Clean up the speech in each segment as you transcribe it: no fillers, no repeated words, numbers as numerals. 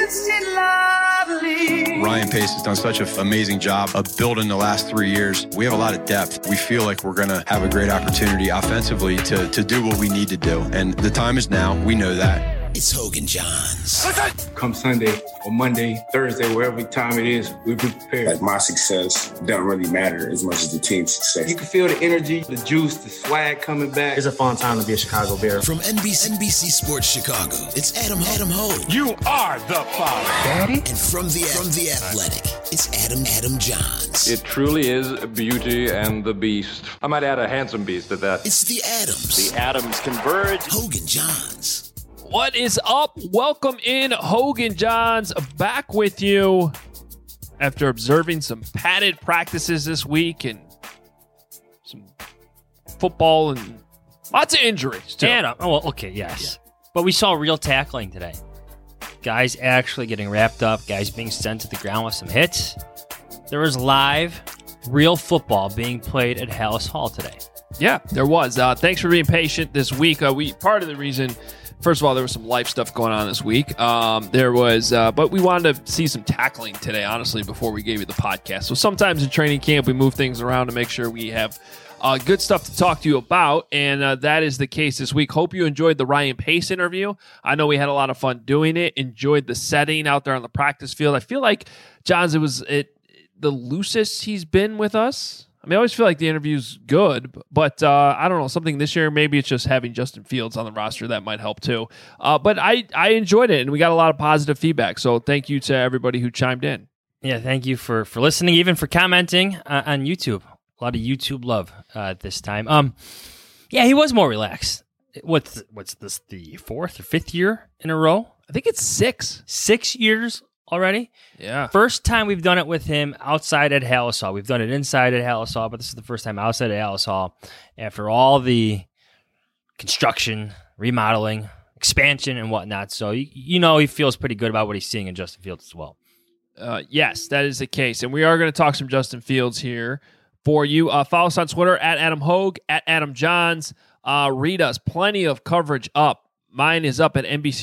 Ryan Pace has done such an amazing job of building the last 3 years. We have a lot of depth. We feel like we're going to have a great opportunity offensively to do what we need to do. And the time is now. We know that. It's Hogan Johns. Come Sunday or Monday, Thursday, wherever time it is, we'll be prepared. Like, my success doesn't really matter as much as the team's success. You can feel the energy, the juice, the swag coming back. It's a fun time to be a Chicago Bear. From NBC Sports Chicago, it's Adam Hogue. You are the father. Daddy? And from the Athletic, it's Adam Johns. It truly is Beauty and the Beast. I might add a handsome beast at that. It's the Adams. The Adams converge. Hogan Johns. What is up? Welcome in, Hogan Johns, back with you after observing some padded practices this week and some football and lots of injuries, too. Adam, yes. Yeah. But we saw real tackling today. Guys actually getting wrapped up, guys being sent to the ground with some hits. There was live, real football being played at Halas Hall today. Yeah, there was. Thanks for being patient this week. Part of the reason... First of all, there was some life stuff going on this week. But we wanted to see some tackling today, honestly, before we gave you the podcast. So sometimes in training camp, we move things around to make sure we have good stuff to talk to you about, and that is the case this week. Hope you enjoyed the Ryan Pace interview. I know we had a lot of fun doing it, enjoyed the setting out there on the practice field. I feel like, Johns, it was the loosest he's been with us. I mean, I always feel like the interview's good, but I don't know, something this year, maybe it's just having Justin Fields on the roster that might help too. But I enjoyed it, and we got a lot of positive feedback, so thank you to everybody who chimed in. Yeah, thank you for listening, even for commenting on YouTube. A lot of YouTube love this time. Yeah, he was more relaxed. What's this, the fourth or fifth year in a row? I think it's 6. 6 years already? Yeah. First time we've done it with him outside at Halas Hall. We've done it inside at Halas Hall, but this is the first time outside at Halas Hall after all the construction, remodeling, expansion, and whatnot. So, he feels pretty good about what he's seeing in Justin Fields as well. Yes, that is the case. And we are going to talk some Justin Fields here for you. Follow us on Twitter at Adam Hogue, at Adam Johns. Read us. Plenty of coverage up. Mine is up at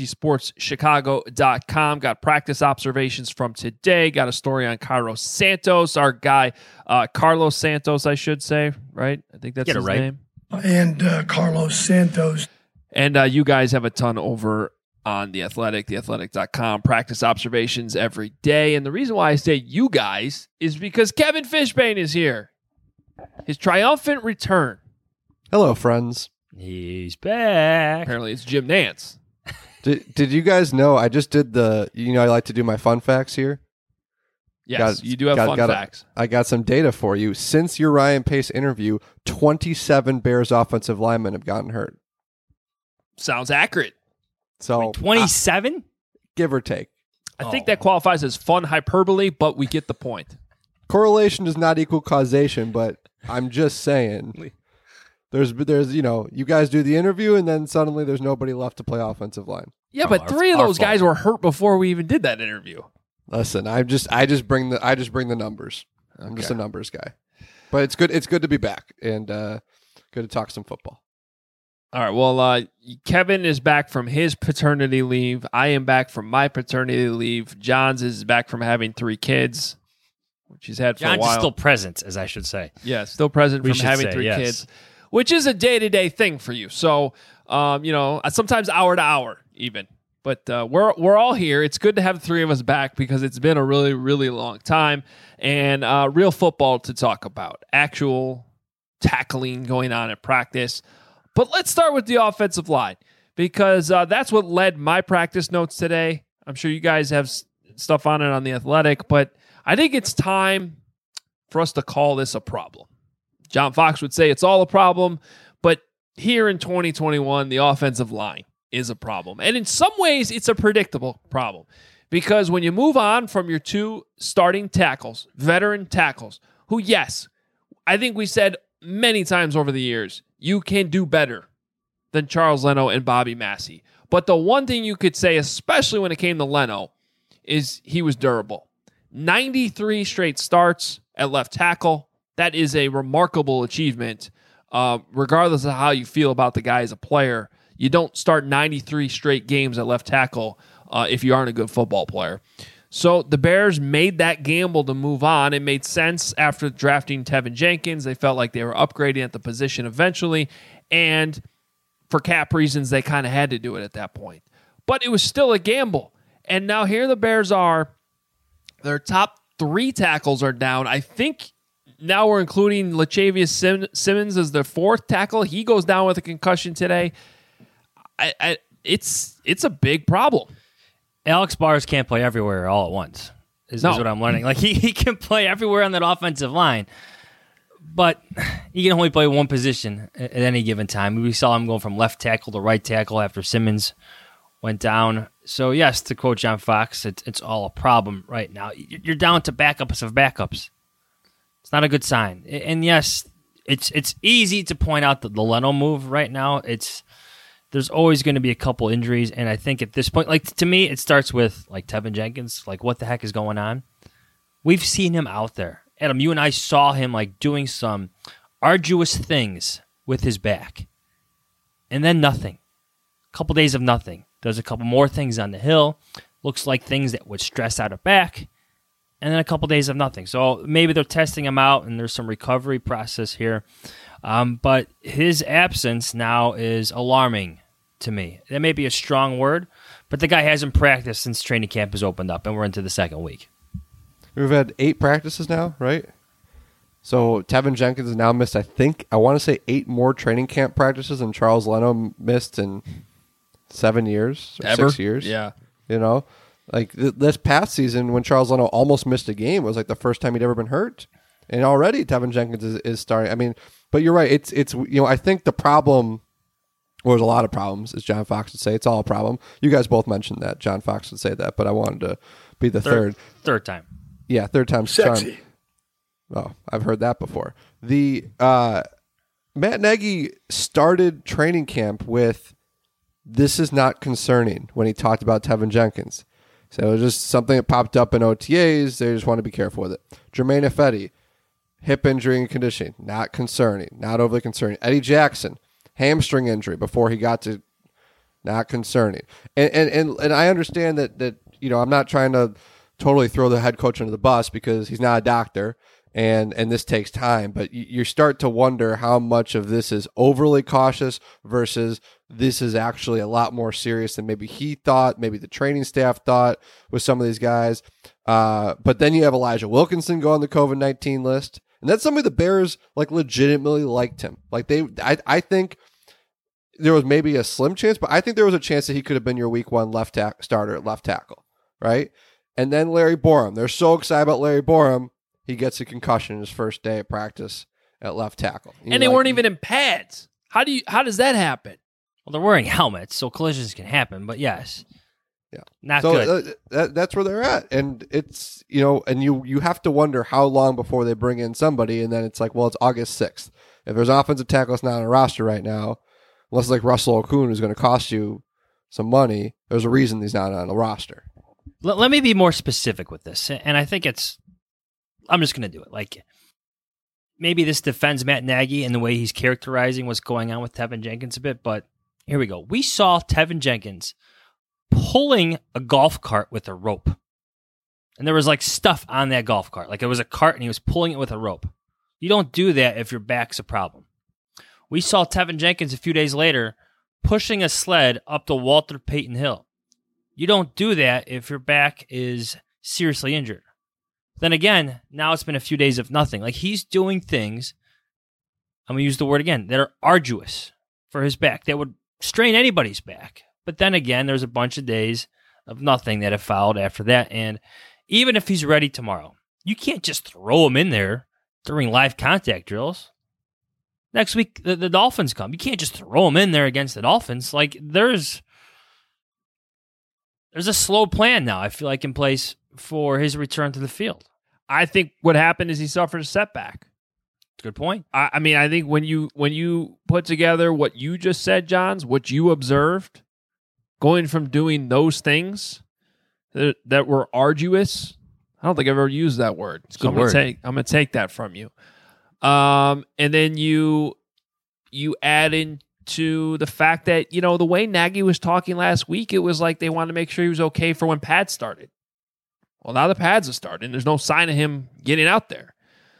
NBCSportsChicago.com. Got practice observations from today. Got a story on Carlos Santos, our guy, Carlos Santos, I should say, right? I think that's his name. And Carlos Santos. And you guys have a ton over on The Athletic, theathletic.com. Practice observations every day. And the reason why I say you guys is because Kevin Fishbain is here. His triumphant return. Hello, friends. He's back. Apparently it's Jim Nantz. Did you guys know I just did I like to do my fun facts here? Yes, you do have fun facts. I got some data for you. Since your Ryan Pace interview, 27 Bears offensive linemen have gotten hurt. Sounds accurate. So 27? Give or take. I think that qualifies as fun hyperbole, but we get the point. Correlation does not equal causation, but I'm just saying... There's you guys do the interview, and then suddenly there's nobody left to play offensive line. Yeah, but 3 of those guys were hurt before we even did that interview. Listen, I just bring the numbers. I'm just a numbers guy. But it's good. It's good to be back and good to talk some football. All right. Well, Kevin is back from his paternity leave. I am back from my paternity leave. Johns is back from having 3 kids, which he's had for a while. Johns is still present, as I should say. Yeah, still present from having 3 kids. Which is a day-to-day thing for you. So, sometimes hour to hour even. But we're all here. It's good to have the 3 of us back because it's been a really, really long time. And real football to talk about. Actual tackling going on at practice. But let's start with the offensive line because that's what led my practice notes today. I'm sure you guys have stuff on it on The Athletic. But I think it's time for us to call this a problem. John Fox would say it's all a problem, but here in 2021, the offensive line is a problem. And in some ways, it's a predictable problem because when you move on from your 2 starting tackles, veteran tackles, who, yes, I think we said many times over the years, you can do better than Charles Leno and Bobby Massey. But the one thing you could say, especially when it came to Leno, is he was durable. 93 straight starts at left tackle. That is a remarkable achievement, regardless of how you feel about the guy as a player. You don't start 93 straight games at left tackle if you aren't a good football player. So the Bears made that gamble to move on. It made sense after drafting Tevin Jenkins. They felt like they were upgrading at the position eventually, and for cap reasons, they kind of had to do it at that point. But it was still a gamble. And now here the Bears are. Their top 3 tackles are down. I think now we're including Lachavious Simmons as the 4th tackle. He goes down with a concussion today. It's a big problem. Alex Bars can't play everywhere all at once, is what I'm learning. Like he can play everywhere on that offensive line, but he can only play one position at any given time. We saw him going from left tackle to right tackle after Simmons went down. So yes, to quote John Fox, it's all a problem right now. You're down to backups of backups. It's not a good sign. And yes, it's easy to point out the Leno move right now. There's always going to be a couple injuries, and I think at this point, like to me, it starts with like Tevin Jenkins. Like, what the heck is going on? We've seen him out there. Adam, you and I saw him like doing some arduous things with his back, and then nothing. A couple days of nothing. Does a couple more things on the hill. Looks like things that would stress out a back, and then a couple days of nothing. So maybe they're testing him out, and there's some recovery process here. But his absence now is alarming to me. That may be a strong word, but the guy hasn't practiced since training camp has opened up, and we're into the second week. We've had 8 practices now, right? So Tevin Jenkins has now missed, I want to say 8 more training camp practices than Charles Leno missed in 7 years, or 6 years. Yeah. You know, like this past season when Charles Leno almost missed a game was like the first time he'd ever been hurt. And already Tevin Jenkins is starting. I mean, but you're right. It's I think the problem, well, there's a lot of problems, as John Fox would say. It's all a problem. You guys both mentioned that. John Fox would say that, but I wanted to be the third time. Yeah, third time's sexy. Oh, I've heard that before. The Matt Nagy started training camp with "This is not concerning" when he talked about Tevin Jenkins. So it was just something that popped up in OTAs. They just want to be careful with it. Jermaine Ifedi, hip injury and conditioning, not concerning, not overly concerning. Eddie Jackson, hamstring injury before he got to, not concerning. And I understand that I'm not trying to totally throw the head coach under the bus because he's not a doctor and this takes time, but you start to wonder how much of this is overly cautious versus this is actually a lot more serious than maybe he thought, maybe the training staff thought with some of these guys. But then you have Elijah Wilkinson go on the COVID-19 list. And that's somebody the Bears like legitimately liked him. Like I think there was maybe a slim chance, but I think there was a chance that he could have been your week 1 starter at left tackle, right? And then Larry Borum. They're so excited about Larry Borum. He gets a concussion his first day of practice at left tackle. And they weren't even in pads. How does that happen? Well, they're wearing helmets, so collisions can happen. But yes, yeah, not good. That's where they're at, and it's and you have to wonder how long before they bring in somebody, and then it's like, well, it's August 6th. If there's an offensive tackle that's not on a roster right now, unless it's like Russell Okung who's going to cost you some money, there's a reason he's not on the roster. Let me be more specific with this, and I think I'm just going to do it. Like, maybe this defends Matt Nagy and the way he's characterizing what's going on with Tevin Jenkins a bit, but here we go. We saw Tevin Jenkins pulling a golf cart with a rope. And there was like stuff on that golf cart. Like it was a cart and he was pulling it with a rope. You don't do that if your back's a problem. We saw Tevin Jenkins a few days later pushing a sled up the Walter Payton Hill. You don't do that if your back is seriously injured. Then again, now it's been a few days of nothing. Like he's doing things, I'm going to use the word again, that are arduous for his back, that would strain anybody's back. But then again, there's a bunch of days of nothing that have followed after that. And even if he's ready tomorrow, you can't just throw him in there during live contact drills. Next week, the Dolphins come. You can't just throw him in there against the Dolphins. Like, there's a slow plan now, I feel like, in place for his return to the field. I think what happened is he suffered a setback. Good point. I mean, I think when you put together what you just said, Johns, what you observed, going from doing those things that were arduous, I don't think I've ever used that word. It's a good word. I'm going to take that from you. And then you add in to the fact that, the way Nagy was talking last week, it was like they wanted to make sure he was okay for when pads started. Well, now the pads have started, and there's no sign of him getting out there.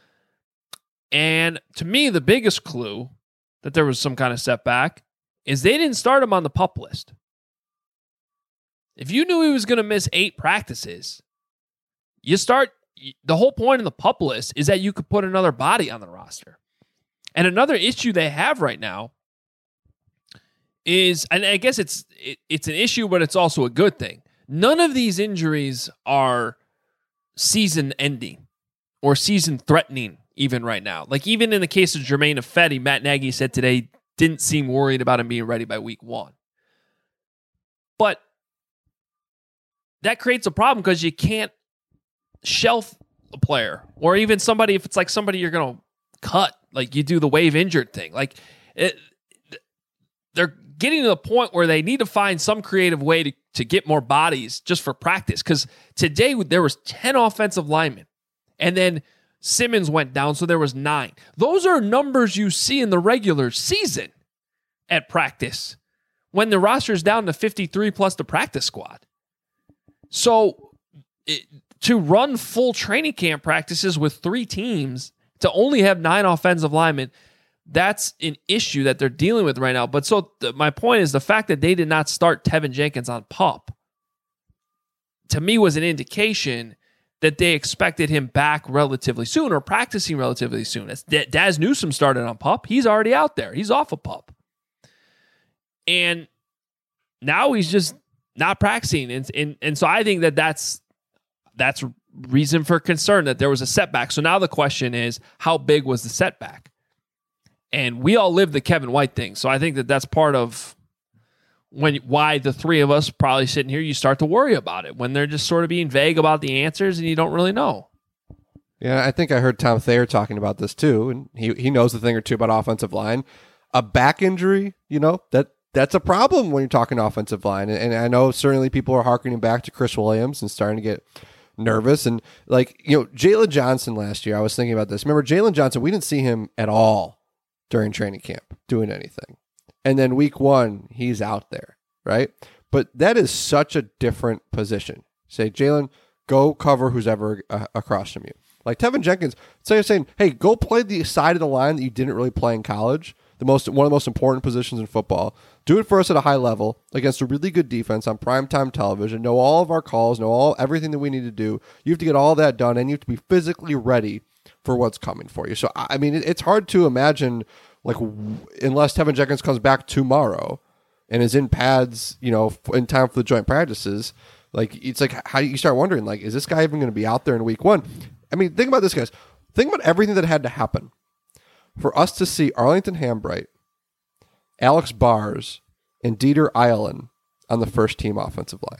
And to me, the biggest clue that there was some kind of setback is they didn't start him on the PUP list. If you knew he was going to miss 8 practices, the whole point of the PUP list is that you could put another body on the roster. And another issue they have right now is, and I guess it's an issue, but it's also a good thing. None of these injuries are season-ending or season-threatening even right now. Like even in the case of Germain Ifedi, Matt Nagy said today didn't seem worried about him being ready by week 1. But that creates a problem because you can't shelf a player or even somebody, if it's like somebody you're going to cut, like you do the waive injured thing. Like they're getting to the point where they need to find some creative way to get more bodies just for practice. Because today there was 10 offensive linemen and then Simmons went down, so there was 9. Those are numbers you see in the regular season at practice when the roster is down to 53 plus the practice squad. So to run full training camp practices with 3 teams, to only have 9 offensive linemen, that's an issue that they're dealing with right now. But so my point is the fact that they did not start Tevin Jenkins on PUP, to me, was an indication that they expected him back relatively soon or practicing relatively soon. Daz Newsome started on PUP. He's already out there. He's off of PUP. And now he's just not practicing. And so I think that's reason for concern that there was a setback. So now the question is, how big was the setback? And we all live the Kevin White thing. So I think that's part of why the 3 of us probably sitting here, you start to worry about it when they're just sort of being vague about the answers and you don't really know. Yeah, I think I heard Tom Thayer talking about this too, and he knows a thing or two about offensive line. A back injury, that's a problem when you're talking offensive line. And I know certainly people are harkening back to Chris Williams and starting to get nervous. And Jalen Johnson last year, I was thinking about this. Remember Jalen Johnson, we didn't see him at all during training camp doing anything. And then week 1, he's out there, right? But that is such a different position. Say, Jalen, go cover who's ever across from you. Like Tevin Jenkins, so you're saying, hey, go play the side of the line that you didn't really play in college, one of the most important positions in football. Do it for us at a high level against a really good defense on primetime television. Know all of our calls, know everything that we need to do. You have to get all that done, and you have to be physically ready for what's coming for you. So, I mean, it's hard to imagine, unless Tevin Jenkins comes back tomorrow and is in pads, in time for the joint practices, it's like how you start wondering, is this guy even going to be out there in week 1? I mean, think about this, guys. Think about everything that had to happen for us to see Arlington Hambright, Alex Bars, and Dieter Eilen on the first team offensive line.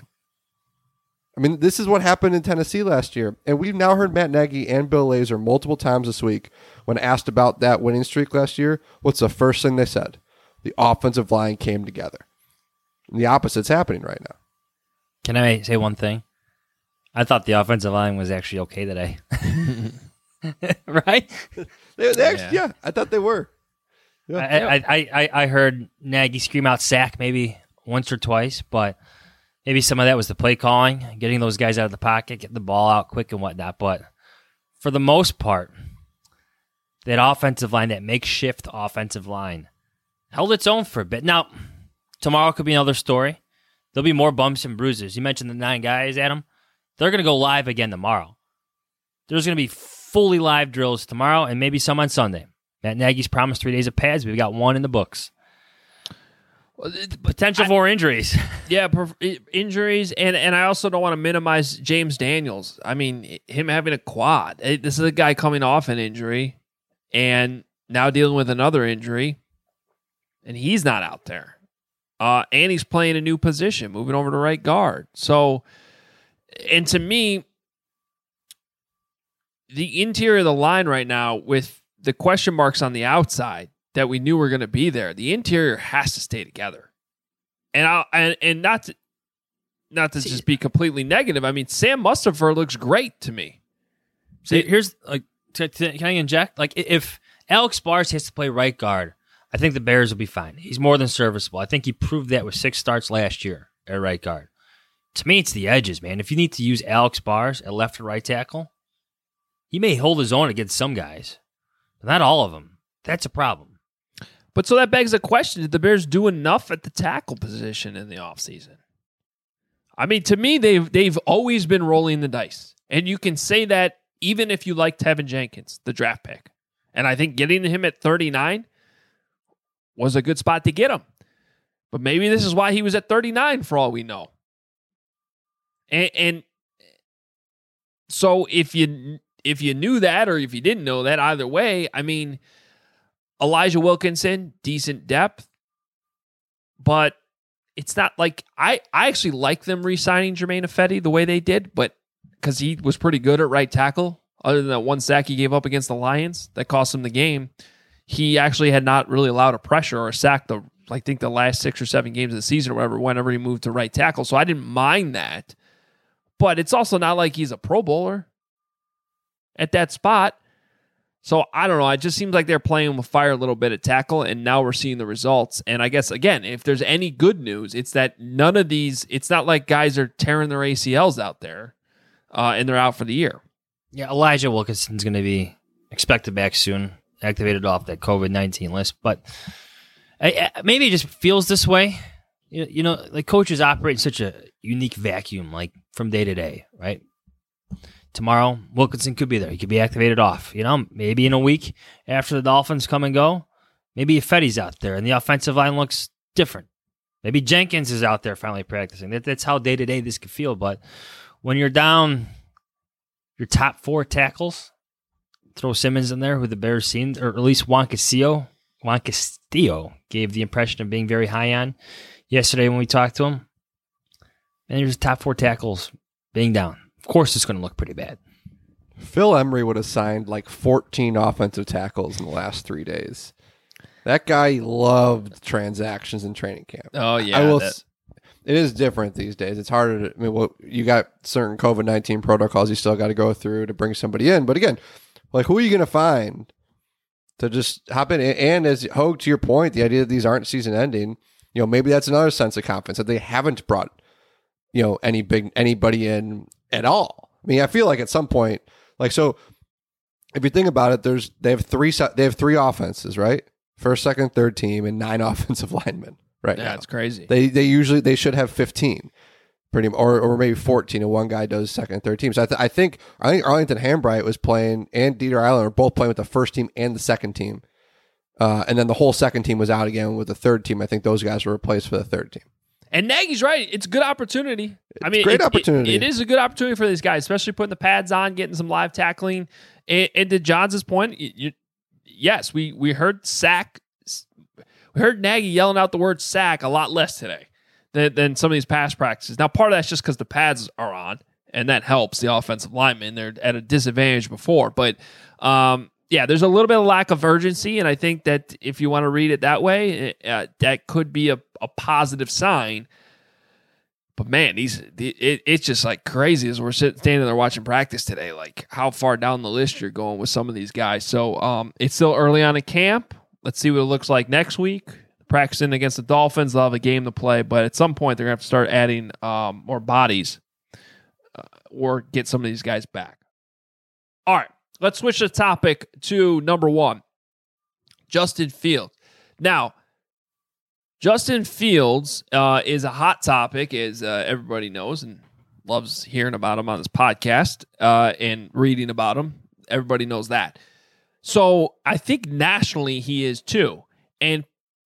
I mean, this is what happened in Tennessee last year. And we've now heard Matt Nagy and Bill Lazor multiple times this week when asked about that winning streak last year. What's the first thing they said? The offensive line came together. And the opposite's happening right now. Can I say one thing? I thought the offensive line was actually okay today. Right? Yeah, I thought they were. Yeah. I heard Nagy scream out sack maybe once or twice, but maybe some of that was the play calling, getting those guys out of the pocket, getting the ball out quick and whatnot. But for the most part, that offensive line, that makeshift offensive line, held its own for a bit. Now, tomorrow could be another story. There'll be more bumps and bruises. You mentioned the 9 guys, Adam. They're going to go live again tomorrow. There's going to be fully live drills tomorrow and maybe some on Sunday. Matt Nagy's promised 3 days of pads. We've got 1 in the books. Potential for injuries. Yeah, injuries. And I also don't want to minimize James Daniels. I mean, him having a quad. This is a guy coming off an injury and now dealing with another injury. And he's not out there. And he's playing a new position, moving over to right guard. So, and to me, the interior of the line right now with the question marks on the outside that we knew were going to be there, the interior has to stay together. And not to just be completely negative. I mean, Sam Mustipher looks great to me. See, here's can I inject? If Alex Bars has to play right guard I think the Bears will be fine. He's more than serviceable. I think he proved that with 6 starts last year at right guard. To me, it's the edges, man. If you need to use Alex Bars at left or right tackle, he may hold his own against some guys, but not all of them. That's a problem. But so that begs the question, did the Bears do enough at the tackle position in the offseason? I mean, to me, they've always been rolling the dice. And you can say that even if you like Tevin Jenkins, the draft pick. And I think getting him at 39 was a good spot to get him. But maybe this is why he was at 39 for all we know. And so if you knew that or if you didn't know that, either way, I mean, Elijah Wilkinson, decent depth, but it's not like I actually like them re-signing Germain Ifedi the way they did, but because he was pretty good at right tackle, other than that one sack he gave up against the Lions that cost him the game, he actually had not really allowed a pressure or a sack I think the last 6 or 7 games of the season or whatever, whenever he moved to right tackle. So I didn't mind that. But it's also not like he's a Pro Bowler at that spot. So I don't know. It just seems like they're playing with fire a little bit at tackle, and now we're seeing the results. And I guess, again, if there's any good news, it's that none of these, it's not like guys are tearing their ACLs out there and they're out for the year. Yeah, Elijah Wilkinson's going to be expected back soon, activated off that COVID-19 list. But maybe it just feels this way. You know, like coaches operate in such a unique vacuum, like from day to day, right? Tomorrow, Wilkinson could be there. He could be activated off. You know, maybe in a week after the Dolphins come and go, maybe Ifedi's out there and the offensive line looks different. Maybe Jenkins is out there finally practicing. That's how day to day this could feel. But when you're down your top 4 tackles, throw Simmons in there, who the Bears seemed, or at least Juan Castillo gave the impression of being very high on yesterday when we talked to him. And there's top 4 tackles being down. Of course, it's going to look pretty bad. Phil Emery would have signed like 14 offensive tackles in the last 3 days. That guy loved transactions in training camp. Oh, yeah. It is different these days. It's harder to, you got certain COVID-19 protocols you still got to go through to bring somebody in. But again, like, who are you going to find to just hop in? And as Hogue, to your point, the idea that these aren't season ending, you know, maybe that's another sense of confidence that they haven't brought, you know, anybody in at all. I mean, I feel like at some point, like, so if you think about it, they have three offenses, right? First, second, third team, and 9 offensive linemen. Right? Yeah, it's crazy. They should have 15, pretty, or maybe 14, and one guy does second and third team. So I think Arlington Hambright was playing, and Dieter Eiland were both playing with the first team and the second team, and then the whole second team was out again with the third team. I think those guys were replaced for the third team. And Nagy's right. It's a good opportunity. Great opportunity. It is a good opportunity for these guys, especially putting the pads on, getting some live tackling. And to Johns' point, yes, we heard sack. We heard Nagy yelling out the word sack a lot less today than some of these past practices. Now, part of that's just because the pads are on, and that helps the offensive linemen. They're at a disadvantage before. But, yeah, there's a little bit of lack of urgency, and I think that if you want to read it that way, that could be a positive sign. But, man, it's just like crazy as we're standing there watching practice today, like how far down the list you're going with some of these guys. So it's still early on in camp. Let's see what it looks like next week. Practicing against the Dolphins, they'll have a game to play, but at some point they're going to have to start adding more bodies or get some of these guys back. All right, let's switch the topic to number 1, Justin Fields. Now, Justin Fields is a hot topic, as everybody knows, and loves hearing about him on this podcast and reading about him. Everybody knows that. So I think nationally he is too. And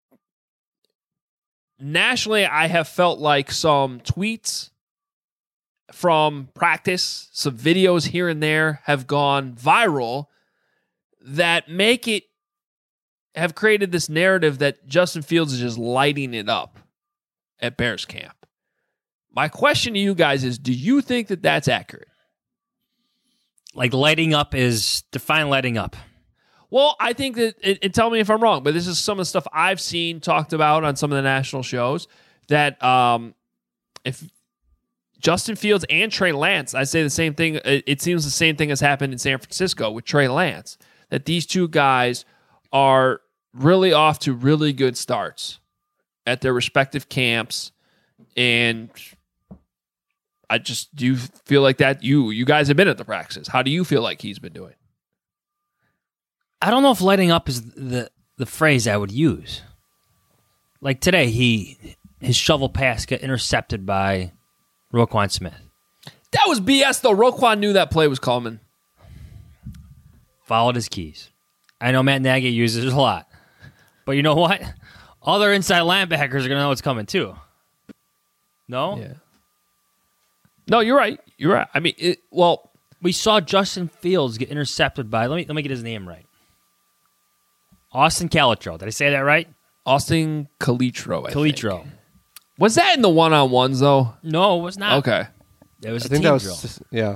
nationally, I have felt like some tweets from practice, some videos here and there have gone viral that have created this narrative that Justin Fields is just lighting it up at Bears camp. My question to you guys is, do you think that that's accurate? Like lighting up define lighting up. Well, I think that, and tell me if I'm wrong, but this is some of the stuff I've seen talked about on some of the national shows, that if Justin Fields and Trey Lance, I say the same thing, it seems the same thing has happened in San Francisco with Trey Lance, that these two guys are really off to really good starts at their respective camps, and I just do feel like that you guys have been at the practices. How do you feel like he's been doing? I don't know if lighting up is the phrase I would use. Like today, his shovel pass got intercepted by Roquan Smith. That was BS, though. Roquan knew that play was coming. Followed his keys. I know Matt Nagy uses it a lot. But you know what? Other inside linebackers are going to know what's coming, too. No? Yeah. No, you're right. You're right. I mean, we saw Justin Fields get intercepted by, let me get his name right. Austin Calitro. Did I say that right? Austin Calitro, I Calitro. think. Was that in the one-on-ones, though? No, it was not. Okay. It was a team drill. Yeah.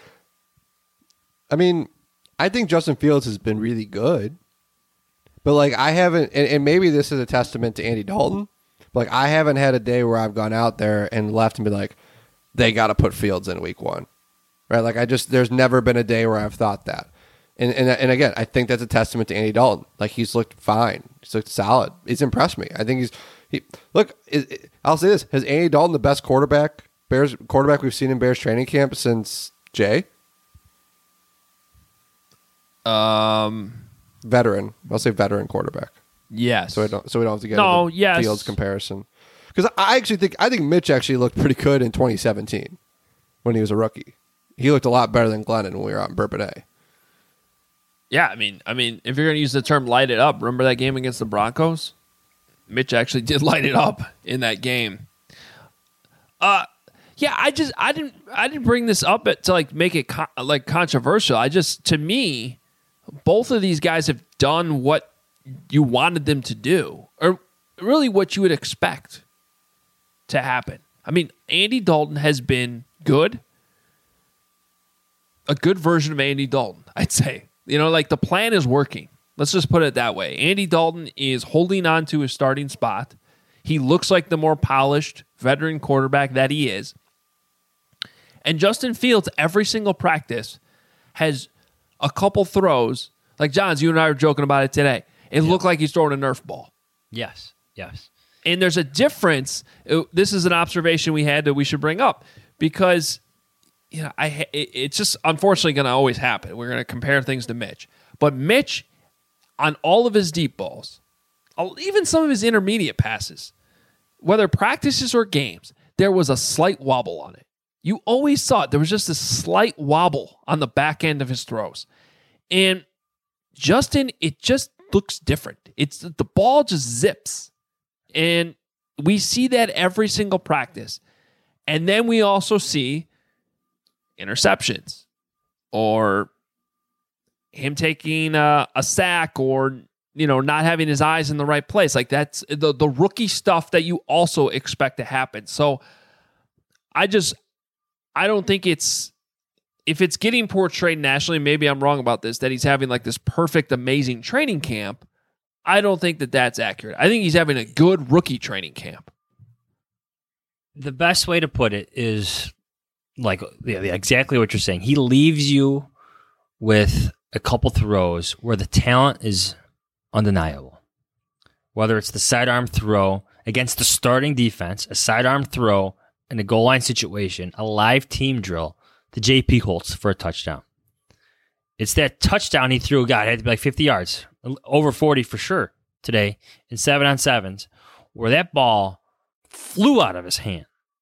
I mean, I think Justin Fields has been really good. But, like, I haven't, and maybe this is a testament to Andy Dalton, but, like, I haven't had a day where I've gone out there and left and been like, they got to put Fields in week 1. Right? Like, there's never been a day where I've thought that. And again, I think that's a testament to Andy Dalton. Like, he's looked fine. He's looked solid. He's impressed me. I think I'll say this. Has Andy Dalton the best Bears quarterback we've seen in Bears training camp since Jay? Veteran. I'll say veteran quarterback. Yes. So we don't have to get into the Fields comparison. Because I think Mitch actually looked pretty good in 2017 when he was a rookie. He looked a lot better than Glennon when we were out in Bourbonnais. Yeah, I mean, if you're going to use the term "light it up," remember that game against the Broncos? Mitch actually did light it up in that game. Yeah, I didn't bring this up to like make it controversial. To me, both of these guys have done what you wanted them to do, or really what you would expect to happen. I mean, Andy Dalton has been good, a good version of Andy Dalton, I'd say. You know, like the plan is working. Let's just put it that way. Andy Dalton is holding on to his starting spot. He looks like the more polished veteran quarterback that he is. And Justin Fields, every single practice, has a couple throws. Like, Johns, you and I were joking about it today. It looked like he's throwing a Nerf ball. Yes. And there's a difference. This is an observation we had that we should bring up because, you know, it's just unfortunately going to always happen. We're going to compare things to Mitch. But Mitch, on all of his deep balls, even some of his intermediate passes, whether practices or games, there was a slight wobble on it. You always saw it. There was just a slight wobble on the back end of his throws. And Justin, it just looks different. The ball just zips. And we see that every single practice. And then we also see interceptions or him taking a sack or, you know, not having his eyes in the right place. Like, that's the rookie stuff that you also expect to happen. So I don't think if it's getting portrayed nationally, maybe I'm wrong about this, that he's having like this perfect, amazing training camp. I don't think that that's accurate. I think he's having a good rookie training camp. The best way to put it is like exactly what you're saying. He leaves you with a couple throws where the talent is undeniable. Whether it's the sidearm throw against the starting defense, a sidearm throw in a goal line situation, a live team drill to J.P. Holtz for a touchdown. It's that touchdown he threw, God, it had to be like 50 yards, over 40 for sure today in 7-on-7s, where that ball flew out of his hand,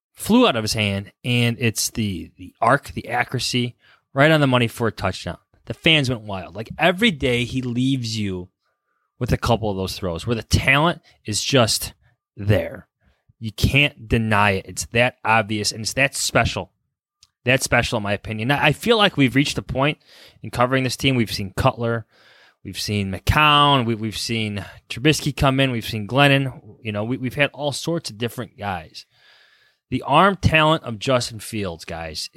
and it's the arc, the accuracy, right on the money for a touchdown. The fans went wild. Like, every day he leaves you with a couple of those throws where the talent is just there. You can't deny it. It's that obvious, and it's that special. That's special, in my opinion. I feel like we've reached a point in covering this team. We've seen Cutler. We've seen McCown. We've seen Trubisky come in. We've seen Glennon. You know, we've had all sorts of different guys. The arm talent of Justin Fields, guys,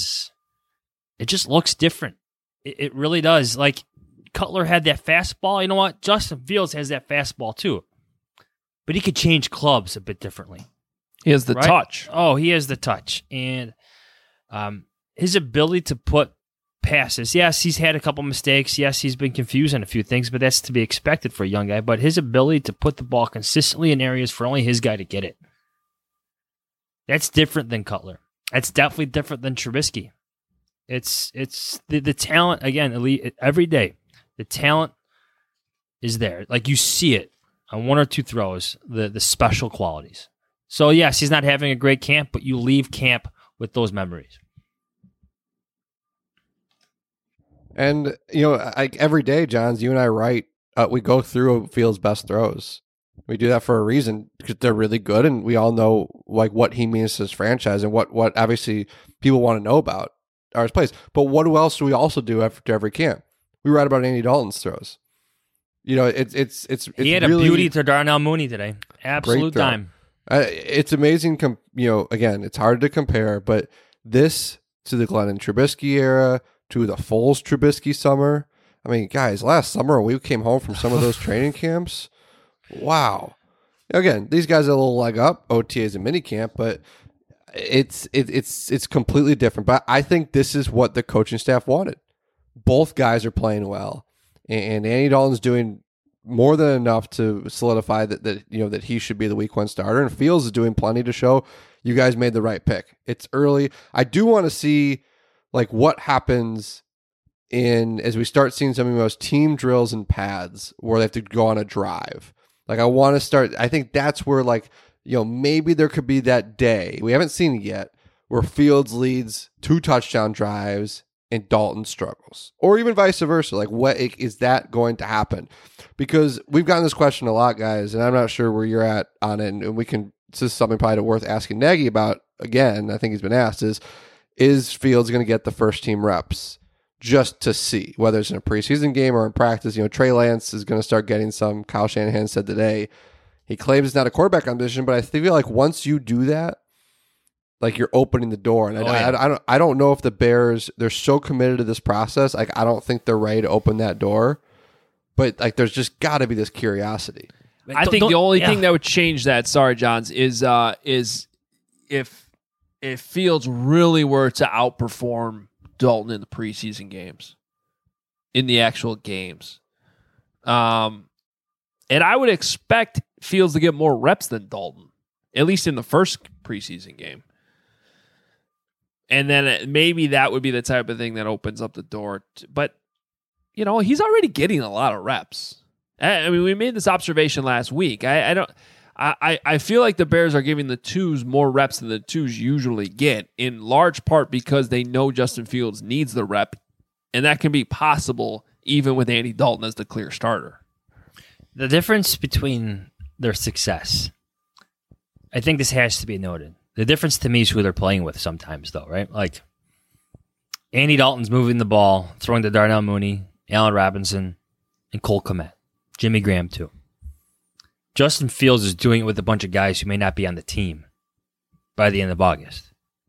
it just looks different. It really does. Like, Cutler had that fastball. You know what? Justin Fields has that fastball too. But he could change clubs a bit differently. He has the touch. Oh, he has the touch. And his ability to put past this. Yes, he's had a couple mistakes. Yes, he's been confused on a few things, but that's to be expected for a young guy. But his ability to put the ball consistently in areas for only his guy to get it, that's different than Cutler. That's definitely different than Trubisky. It's the talent, again, elite every day. The talent is there. Like, you see it on one or two throws, the special qualities. So, yes, he's not having a great camp, but you leave camp with those memories. And, every day, Johns, you and I write, we go through Fields' best throws. We do that for a reason, because they're really good, and we all know what he means to his franchise and what obviously people want to know about are his plays. But what else do we also do after every camp? We write about Andy Dalton's throws. He had a beauty to Darnell Mooney today. Absolute dime. It's amazing. Again, it's hard to compare, but this to the Glennon Trubisky era, to the Foles Trubisky summer. I mean, guys, last summer we came home from some of those training camps. Wow. Again, these guys are a little leg up, OTAs and minicamp, but it's completely different. But I think this is what the coaching staff wanted. Both guys are playing well, and Andy Dalton's doing more than enough to solidify that he should be the week 1 starter, and Fields is doing plenty to show you guys made the right pick. It's early. I do want to see what happens as we start seeing some of those team drills and pads where they have to go on a drive. I want to start. I think that's where maybe there could be that day. We haven't seen it yet where Fields leads 2 touchdown drives and Dalton struggles, or even vice versa. What is that going to happen? Because we've gotten this question a lot, guys, and I'm not sure where you're at on it. And this is something probably worth asking Nagy about again. I think he's been asked is Fields going to get the first team reps just to see whether it's in a preseason game or in practice? Trey Lance is going to start getting some. Kyle Shanahan said today he claims it's not a quarterback competition, but I feel like once you do that, you're opening the door. And I don't know if the Bears, they're so committed to this process. I don't think they're ready to open that door. But there's just got to be this curiosity. I think the only thing that would change that, sorry, Johns, is if Fields really were to outperform Dalton in the preseason games, in the actual games. And I would expect Fields to get more reps than Dalton, at least in the first preseason game. And then maybe that would be the type of thing that opens up the door. But, he's already getting a lot of reps. I mean, we made this observation last week. I feel like the Bears are giving the 2s more reps than the 2s usually get, in large part because they know Justin Fields needs the rep, and that can be possible even with Andy Dalton as the clear starter. The difference between their success, I think this has to be noted. The difference to me is who they're playing with sometimes, though, right? Andy Dalton's moving the ball, throwing to Darnell Mooney, Allen Robinson, and Cole Kmet. Jimmy Graham, too. Justin Fields is doing it with a bunch of guys who may not be on the team by the end of August.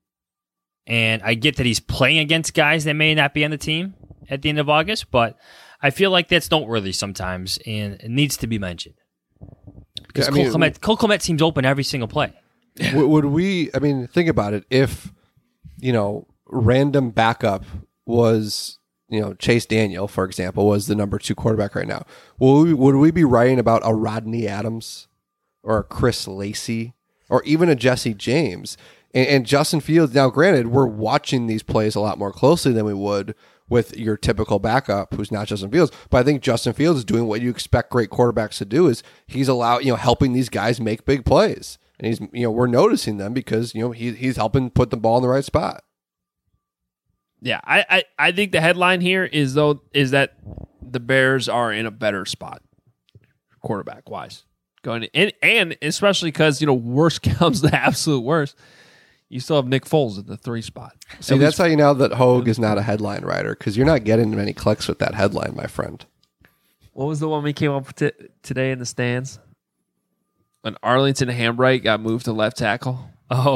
And I get that he's playing against guys that may not be on the team at the end of August, but I feel like that's noteworthy sometimes, and it needs to be mentioned. Because Cole Kmet seems open every single play. Would we, think about it. If, random backup was, Chase Daniel, for example, was the number 2 quarterback right now, would we be writing about a Rodney Adams or a Chris Lacey or even a Jesse James? And Justin Fields, now granted, we're watching these plays a lot more closely than we would with your typical backup who's not Justin Fields. But I think Justin Fields is doing what you expect great quarterbacks to do, is he's helping these guys make big plays. And he's, we're noticing them because, he's helping put the ball in the right spot. Yeah, I think the headline here is that the Bears are in a better spot, quarterback wise, going and especially because worst comes to absolute worst, you still have Nick Foles at the 3 spot. See, that's how you know that Hogue is not a headline writer, because you're not getting many clicks with that headline, my friend. What was the one we came up with today in the stands? When Arlington Hambright got moved to left tackle.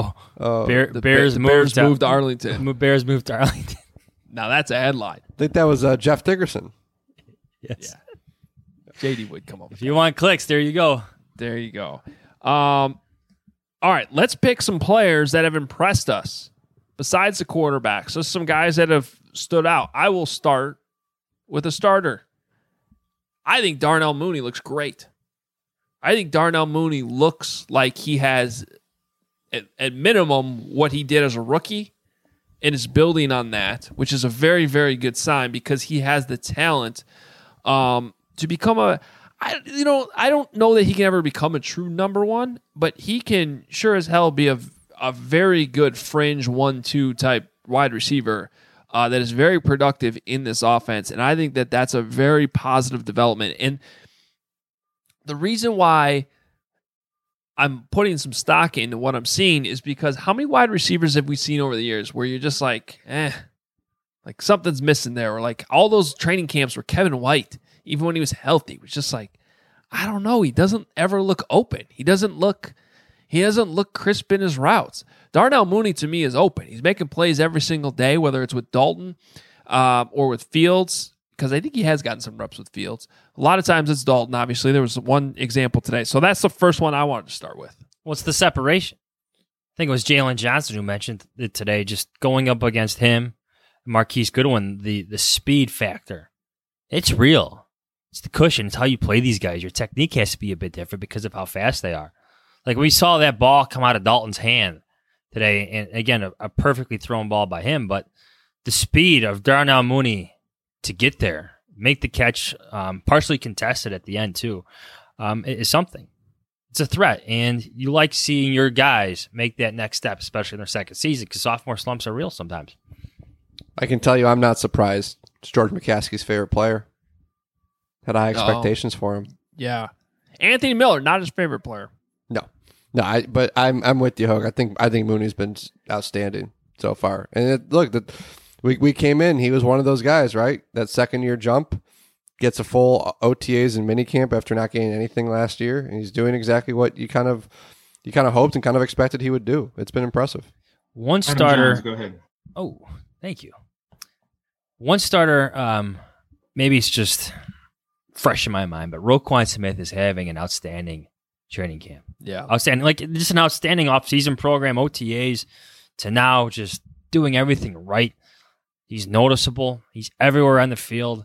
Bears moved to Arlington. Bears moved to Arlington. Now that's a headline. I think that was Jeff Dickerson. Yes. Yeah. JD would come up. If you want clicks, there you go. There you go. All right, let's pick some players that have impressed us besides the quarterbacks, so some guys that have stood out. I will start with a starter. I think Darnell Mooney looks great. I think Darnell Mooney looks like he has, at minimum, what he did as a rookie, and is building on that, which is a very, very good sign because he has the talent to become I don't know that he can ever become a true number one, but he can sure as hell be a very good fringe 1-2 type wide receiver that is very productive in this offense. And I think that that's a very positive development. And the reason why I'm putting some stock into what I'm seeing is because how many wide receivers have we seen over the years where you're just like something's missing there, or like all those training camps where Kevin White, even when he was healthy, was just like, I don't know. He doesn't ever look open. He doesn't look crisp in his routes. Darnell Mooney to me is open. He's making plays every single day, whether it's with Dalton or with Fields, because I think he has gotten some reps with Fields. A lot of times it's Dalton, obviously. There was one example today. So that's the first one I wanted to start with. What's the separation? I think it was Jalen Johnson who mentioned it today, just going up against him, Marquise Goodwin, the speed factor. It's real. It's the cushion. It's how you play these guys. Your technique has to be a bit different because of how fast they are. Like we saw that ball come out of Dalton's hand today, and again, a perfectly thrown ball by him, but the speed of Darnell Mooney to get there, make the catch, partially contested at the end too, is something. It's a threat, and you like seeing your guys make that next step, especially in their second season, because sophomore slumps are real sometimes. I can tell you I'm not surprised. It's George McCaskey's favorite player. Had high expectations for him. Yeah. Anthony Miller, not his favorite player. No, but I'm with you, Hogue. I think Mooney's been outstanding so far. And we came in, he was one of those guys, right? That second year jump, gets a full OTAs and minicamp after not getting anything last year, and he's doing exactly what you kind of hoped and kind of expected he would do. It's been impressive. One starter. Jones, go ahead. Oh, thank you. One starter. Maybe it's just fresh in my mind, but Roquan Smith is having an outstanding training camp. Yeah. Outstanding. Like, just an outstanding offseason program, OTAs, to now just doing everything right. He's noticeable. He's everywhere on the field.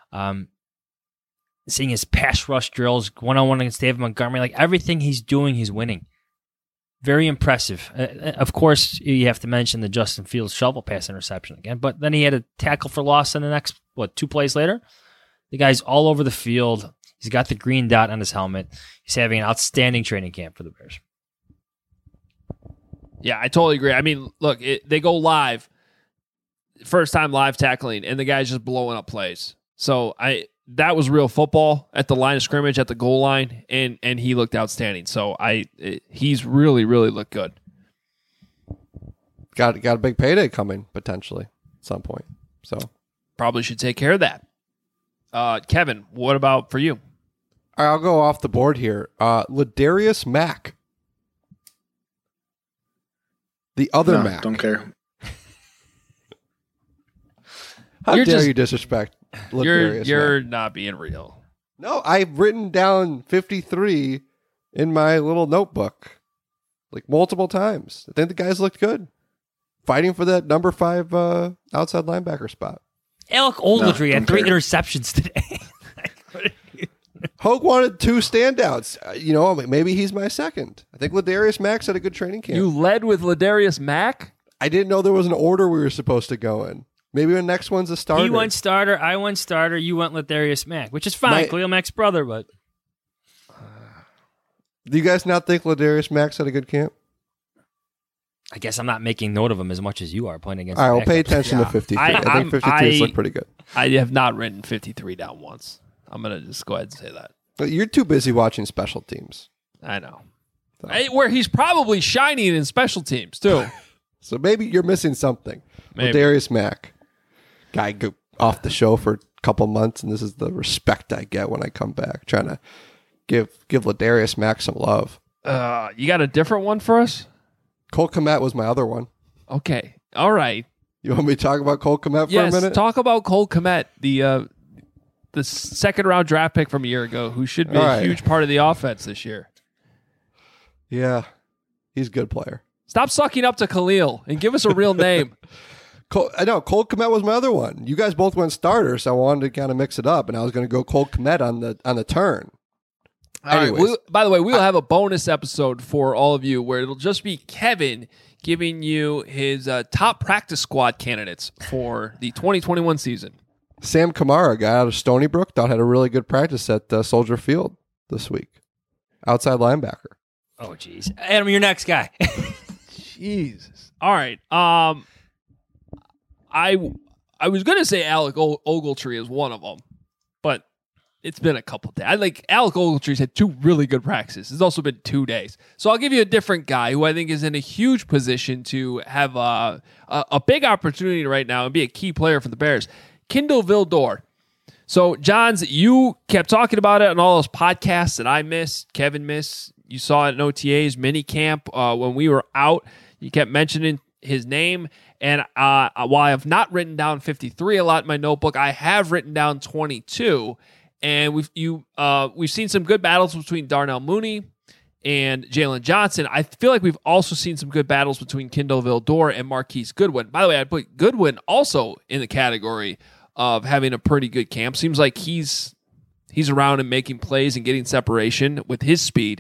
Seeing his pass rush drills, one-on-one against David Montgomery, like everything he's doing, he's winning. Very impressive. Of course, you have to mention the Justin Fields shovel pass interception again, but then he had a tackle for loss in the next, 2 plays later? The guy's all over the field. He's got the green dot on his helmet. He's having an outstanding training camp for the Bears. Yeah, I totally agree. I mean, look, they go live, first time live tackling, and the guy's just blowing up plays. So that was real football at the line of scrimmage, at the goal line, and he looked outstanding. So he's really, really looked good. Got a big payday coming potentially at some point. So probably should take care of that. Kevin, what about for you? I'll go off the board here. Ladarius Mack. The other Mac. Don't care. How dare you disrespect Ladarius You're Mack? not being real. No, I've written down 53 in my little notebook, like multiple times. I think the guys looked good, fighting for that number 5 outside linebacker spot. Alec Ogletree had 3 interceptions today. Hogue wanted 2 standouts. Maybe he's my second. I think Ladarius Mack's had a good training camp. You led with Ladarius Mack? I didn't know there was an order we were supposed to go in. Maybe the next one's a starter. He went starter, I went starter, you went Ladarius Mack, which is fine. Khalil Mack's brother, but... Do you guys not think Ladarius Mack's had a good camp? I guess I'm not making note of him as much as you are playing against. All right, well, pay attention to 53. I think 53 look pretty good. I have not written 53 down once. I'm going to just go ahead and say that. But you're too busy watching special teams. I know. So. Where he's probably shining in special teams, too. So maybe you're missing something. Ladarius Mack. Guy go off the show for a couple months, and this is the respect I get when I come back. Trying to give Ladarius Mack some love. You got a different one for us? Cole Kmet was my other one. Okay. All right. You want me to talk about Cole Kmet for a minute? Yes, talk about Cole Kmet, the second-round draft pick from a year ago, who should be a huge part of the offense this year. Yeah. He's a good player. Stop sucking up to Khalil and give us a real name. I know Cole Kmet was my other one. You guys both went starter, so I wanted to kind of mix it up, and I was going to go Cole Kmet on the turn. All right. By the way, we'll have a bonus episode for all of you where it'll just be Kevin giving you his top practice squad candidates for the 2021 season. Sam Kamara, guy out of Stony Brook, thought had a really good practice at Soldier Field this week. Outside linebacker. Oh, jeez. Adam, your next guy. Jesus. All right. I was going to say Alec Ogletree is one of them, but it's been a couple days. Alec Ogletree's had 2 really good practices. It's also been 2 days. So I'll give you a different guy who I think is in a huge position to have a big opportunity right now and be a key player for the Bears. Kindle Vildor. So, Johns, you kept talking about it on all those podcasts that I missed, Kevin missed. You saw it in OTA's mini camp when we were out. You kept mentioning his name. And while I have not written down 53 a lot in my notebook, I have written down 22. And we've seen some good battles between Darnell Mooney and Jalen Johnson. I feel like we've also seen some good battles between Kindle Vildor and Marquise Goodwin. By the way, I'd put Goodwin also in the category of having a pretty good camp. Seems like he's around and making plays and getting separation with his speed.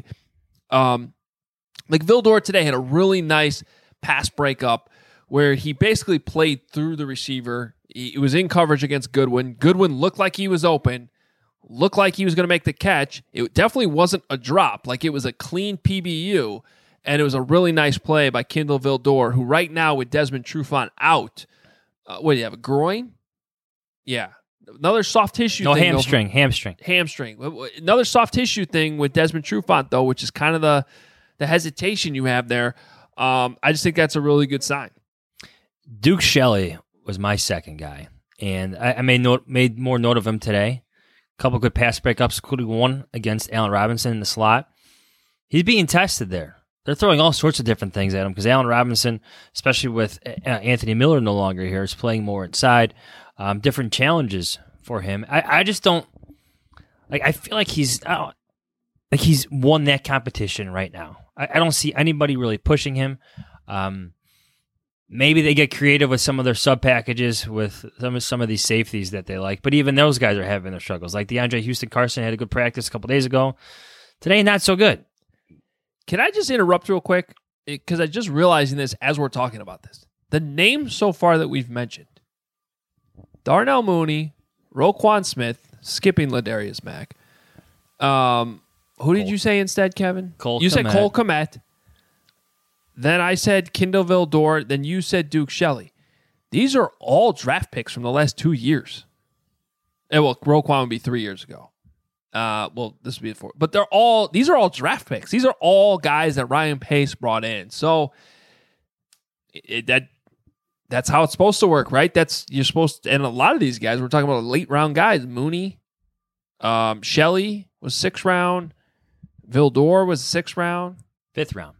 Vildor today had a really nice pass breakup where he basically played through the receiver. He was in coverage against Goodwin. Goodwin looked like he was open, looked like he was going to make the catch. It definitely wasn't a drop. It was a clean PBU, and it was a really nice play by Kindle Vildor, who right now with Desmond Trufant out, what do you have, a groin? Yeah. Another soft tissue thing. Hamstring. Another soft tissue thing with Desmond Trufant, though, which is kind of the hesitation you have there. I just think that's a really good sign. Duke Shelley was my second guy, and I made more note of him today. A couple good pass breakups, including one against Allen Robinson in the slot. He's being tested there. They're throwing all sorts of different things at him because Allen Robinson, especially with Anthony Miller no longer here, is playing more inside. Different challenges for him. I just don't I feel like he's won that competition right now. I don't see anybody really pushing him. Maybe they get creative with some of their sub packages with some of these safeties that they like, but even those guys are having their struggles. Like DeAndre Houston-Carson had a good practice a couple days ago. Today, not so good. Can I just interrupt real quick? Because I just realizing this as we're talking about this. The names so far that we've mentioned, Darnell Mooney, Roquan Smith, skipping Ladarius Mack. Who did you say instead, Kevin? You said Cole Kmet. Then I said Kindle Vildor. Then you said Duke Shelley. These are all draft picks from the last 2 years. Well, Roquan would be 3 years ago. This would be 4. But these are all draft picks. These are all guys that Ryan Pace brought in. So that's how it's supposed to work, right? You're supposed to, and a lot of these guys, we're talking about late round guys. Mooney, Shelley was 6th round. Vildor was 6th round. 5th round.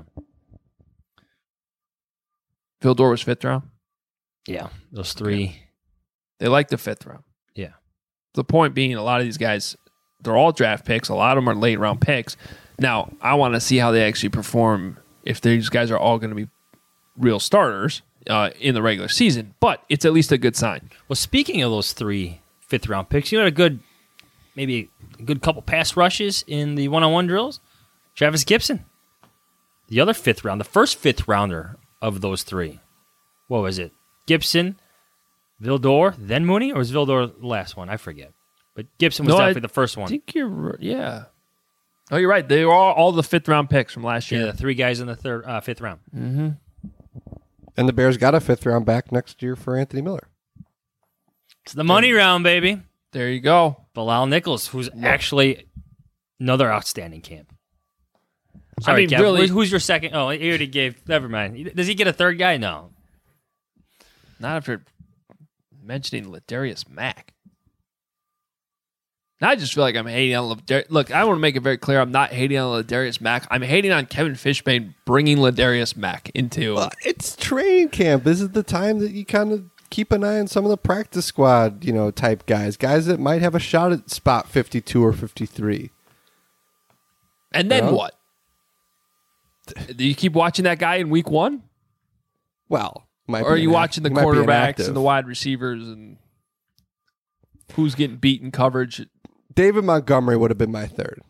Vildor was 5th round. Yeah, those 3. They like the 5th round. Yeah. The point being, a lot of these guys, they're all draft picks. A lot of them are late round picks. Now, I want to see how they actually perform if these guys are all going to be real starters in the regular season. But it's at least a good sign. Well, speaking of those 3 5th-round picks, you had maybe a good couple pass rushes in the one-on-one drills. Travis Gibson, the other 5th round, the first 5th rounder of those 3. What was it? Gibson, Vildor, then Mooney, or was Vildor the last one? I forget. But Gibson was definitely the first one. I think yeah. Oh, you're right. They were all the 5th round picks from last year. Yeah, the 3 guys in the 5th round. Mm-hmm. And the Bears got a 5th round back next year for Anthony Miller. It's the money round, baby. There you go. Bilal Nichols, who's actually another outstanding camp. Sorry, Kev, really, who's your second? Oh, he already gave. Never mind. Does he get a 3rd guy? No. Not after mentioning Ladarius Mack. Now I just feel like I'm hating on Ladarius. Look, I want to make it very clear. I'm not hating on Ladarius Mack. I'm hating on Kevin Fishbane bringing Ladarius Mack into. It's training camp. This is the time that you kind of keep an eye on some of the practice squad, type guys that might have a shot at spot 52 or 53. And then what? Do you keep watching that guy in week 1? Well, or are you watching the quarterbacks and the wide receivers and who's getting beat in coverage? David Montgomery would have been my third.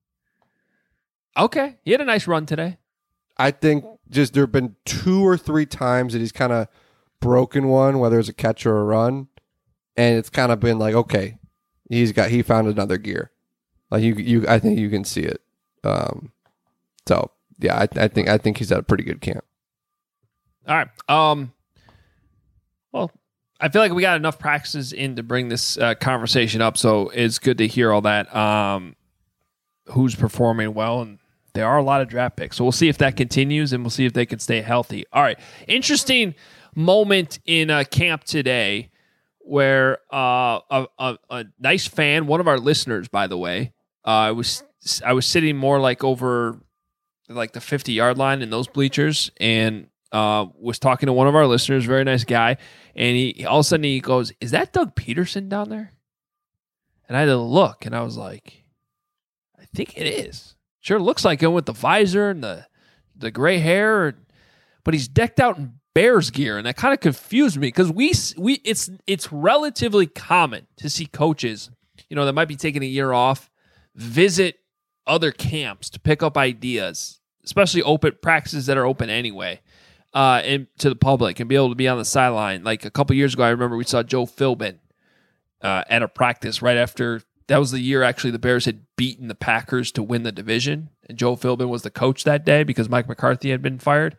Okay. He had a nice run today. I think just there have been 2 or 3 times that he's kind of broken one, whether it's a catch or a run, and it's kind of been like, okay, he found another gear. Like I think you can see it. So yeah, I think he's at a pretty good camp. All right. Well, I feel like we got enough practices in to bring this conversation up, so it's good to hear all that. Who's performing well, and there are a lot of draft picks. So we'll see if that continues, and we'll see if they can stay healthy. All right. Interesting moment in camp today where a nice fan, one of our listeners, by the way, I was sitting more like over like the 50-yard line in those bleachers, and was talking to one of our listeners, very nice guy, and he all of a sudden he goes, "Is that Doug Peterson down there?" And I had to look, and I was like, "I think it is. Sure looks like him with the visor and the gray hair, but he's decked out in Bears gear," and that kind of confused me because it's relatively common to see coaches, that might be taking a year off, visit other camps to pick up ideas, especially open practices that are open anyway, and to the public, and be able to be on the sideline. Like a couple years ago, I remember we saw Joe Philbin at a practice right after. That was the year actually the Bears had beaten the Packers to win the division, and Joe Philbin was the coach that day because Mike McCarthy had been fired.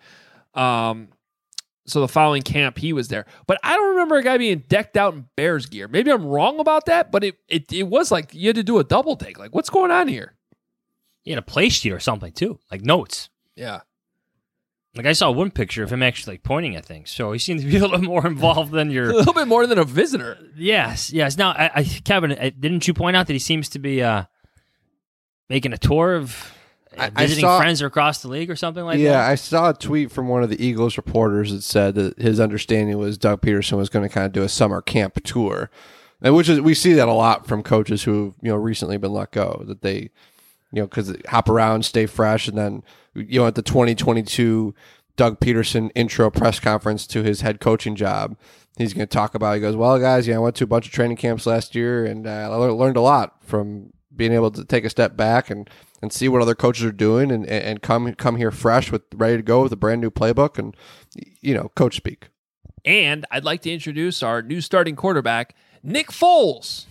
So the following camp, he was there. But I don't remember a guy being decked out in Bears gear. Maybe I'm wrong about that, but it was like you had to do a double take. Like, what's going on here? He had a play sheet or something, too, like notes. Yeah. Like, I saw one picture of him actually like pointing at things, so he seems to be a little more involved than your... a little bit more than a visitor. Yes. Now, Kevin, didn't you point out that he seems to be making a tour of... visiting friends across the league or something like that? Yeah, I saw a tweet from one of the Eagles reporters that said that his understanding was Doug Peterson was going to kind of do a summer camp tour, and we see that a lot from coaches who recently been let go, that they because they hop around, stay fresh, and then at the 2022 Doug Peterson intro press conference to his head coaching job, he's going to talk about. He goes, "Well, guys, I went to a bunch of training camps last year, and I learned a lot from being able to take a step back and see what other coaches are doing and come here fresh ready to go with a brand new playbook and coach speak." And I'd like to introduce our new starting quarterback, Nick Foles.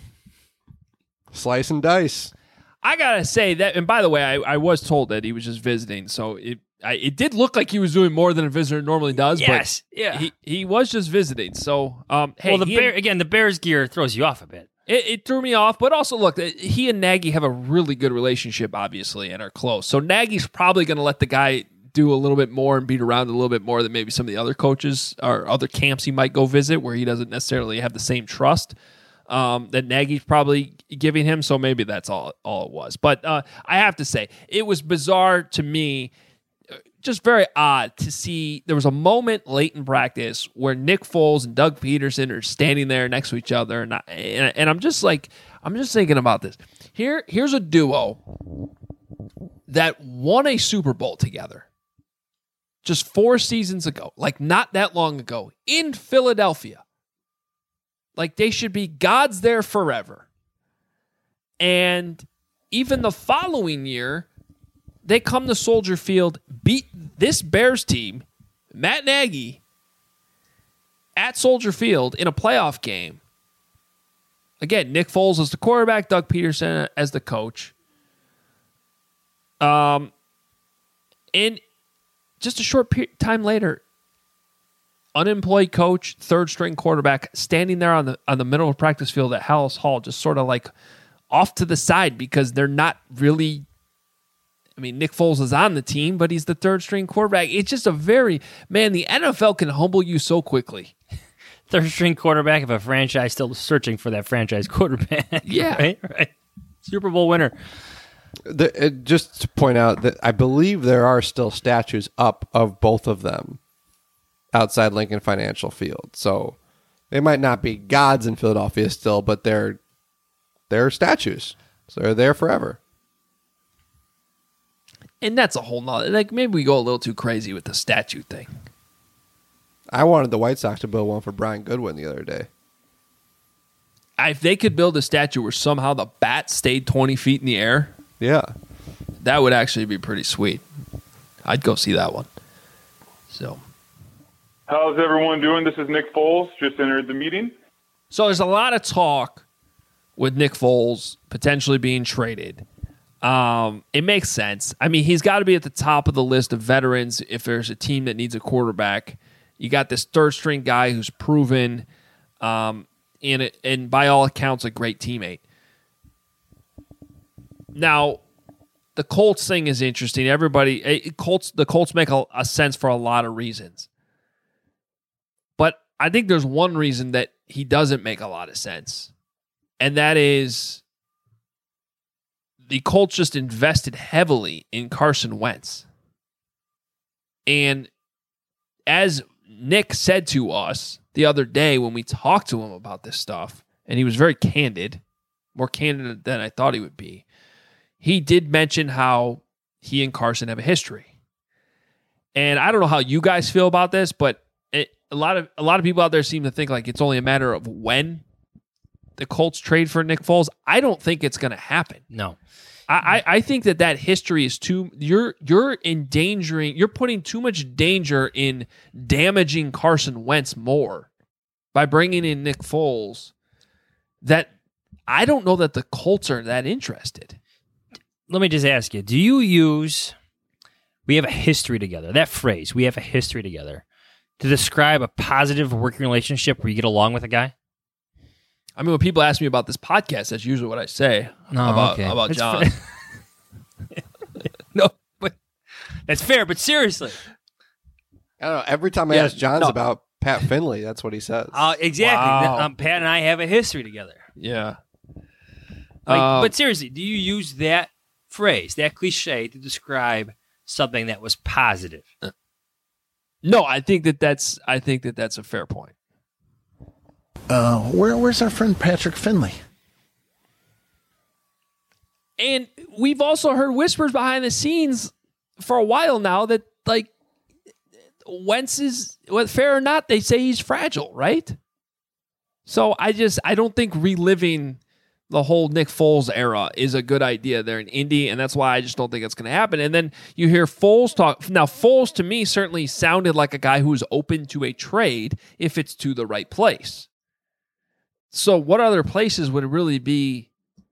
Slice and dice. I gotta say that, and by the way, I was told that he was just visiting, so it did look like he was doing more than a visitor normally does. Yes, but yeah, he was just visiting. So, hey, well, the Bears gear throws you off a bit. It threw me off, but also look, he and Nagy have a really good relationship, obviously, and are close. So Nagy's probably going to let the guy do a little bit more and beat around a little bit more than maybe some of the other coaches or other camps he might go visit where he doesn't necessarily have the same trust that Nagy's probably giving him. So maybe that's all it was. But I have to say, it was bizarre to me, just very odd to see. There was a moment late in practice where Nick Foles and Doug Peterson are standing there next to each other, and I'm just thinking about this. Here's a duo that won a Super Bowl together just 4 seasons ago, like not that long ago, in Philadelphia. Like they should be gods there forever. And even the following year, they come to Soldier Field, beat this Bears team, Matt Nagy, at Soldier Field in a playoff game. Again, Nick Foles as the quarterback, Doug Peterson as the coach. And just a short time later, unemployed coach, third-string quarterback, standing there on the middle of practice field at Hallis Hall, just sort of like off to the side because they're not really... I mean, Nick Foles is on the team, but he's the third-string quarterback. It's just the NFL can humble you so quickly. Third-string quarterback of a franchise still searching for that franchise quarterback. Yeah. Right. Super Bowl winner. Just to point out that I believe there are still statues up of both of them outside Lincoln Financial Field. So they might not be gods in Philadelphia still, but they're statues. So they're there forever. And that's a whole nother, like, maybe we go a little too crazy with the statue thing. I wanted the White Sox to build one for Brian Goodwin the other day. If they could build a statue where somehow the bat stayed 20 feet in the air, yeah, that would actually be pretty sweet. I'd go see that one. So, how's everyone doing? This is Nick Foles. Just entered the meeting. So there's a lot of talk with Nick Foles potentially being traded. It makes sense. I mean, he's got to be at the top of the list of veterans if there's a team that needs a quarterback. You got this third-string guy who's proven, and by all accounts, a great teammate. Now, the Colts thing is interesting. The Colts make a sense for a lot of reasons. But I think there's one reason that he doesn't make a lot of sense. And that is the Colts just invested heavily in Carson Wentz. And as Nick said to us the other day when we talked to him about this stuff, and he was very candid, more candid than I thought he would be, he did mention how he and Carson have a history. And I don't know how you guys feel about this, but a lot of people out there seem to think like it's only a matter of when the Colts trade for Nick Foles. I don't think it's going to happen. No. I think that history is too. You're putting too much danger in damaging Carson Wentz more by bringing in Nick Foles. That I don't know that the Colts are that interested. Let me just ask you: do you use "we have a history together"? That phrase, "we have a history together," to describe a positive working relationship where you get along with a guy? I mean, when people ask me about this podcast, that's usually what I say about John. No, but that's fair. But seriously, I don't know. Every time I ask Johns about Pat Finley, that's what he says. Exactly. Wow. Pat and I have a history together. Yeah. But seriously, do you use that phrase, that cliche, to describe something that was positive? No, I think that's a fair point. Where's our friend Patrick Finley? And we've also heard whispers behind the scenes for a while now that, like, Wentz is, fair or not, they say he's fragile, right? So I don't think reliving the whole Nick Foles era is a good idea there in Indy, and that's why I just don't think it's going to happen. And then you hear Foles talk. Now, Foles, to me, certainly sounded like a guy who's open to a trade if it's to the right place. So what other places would it really be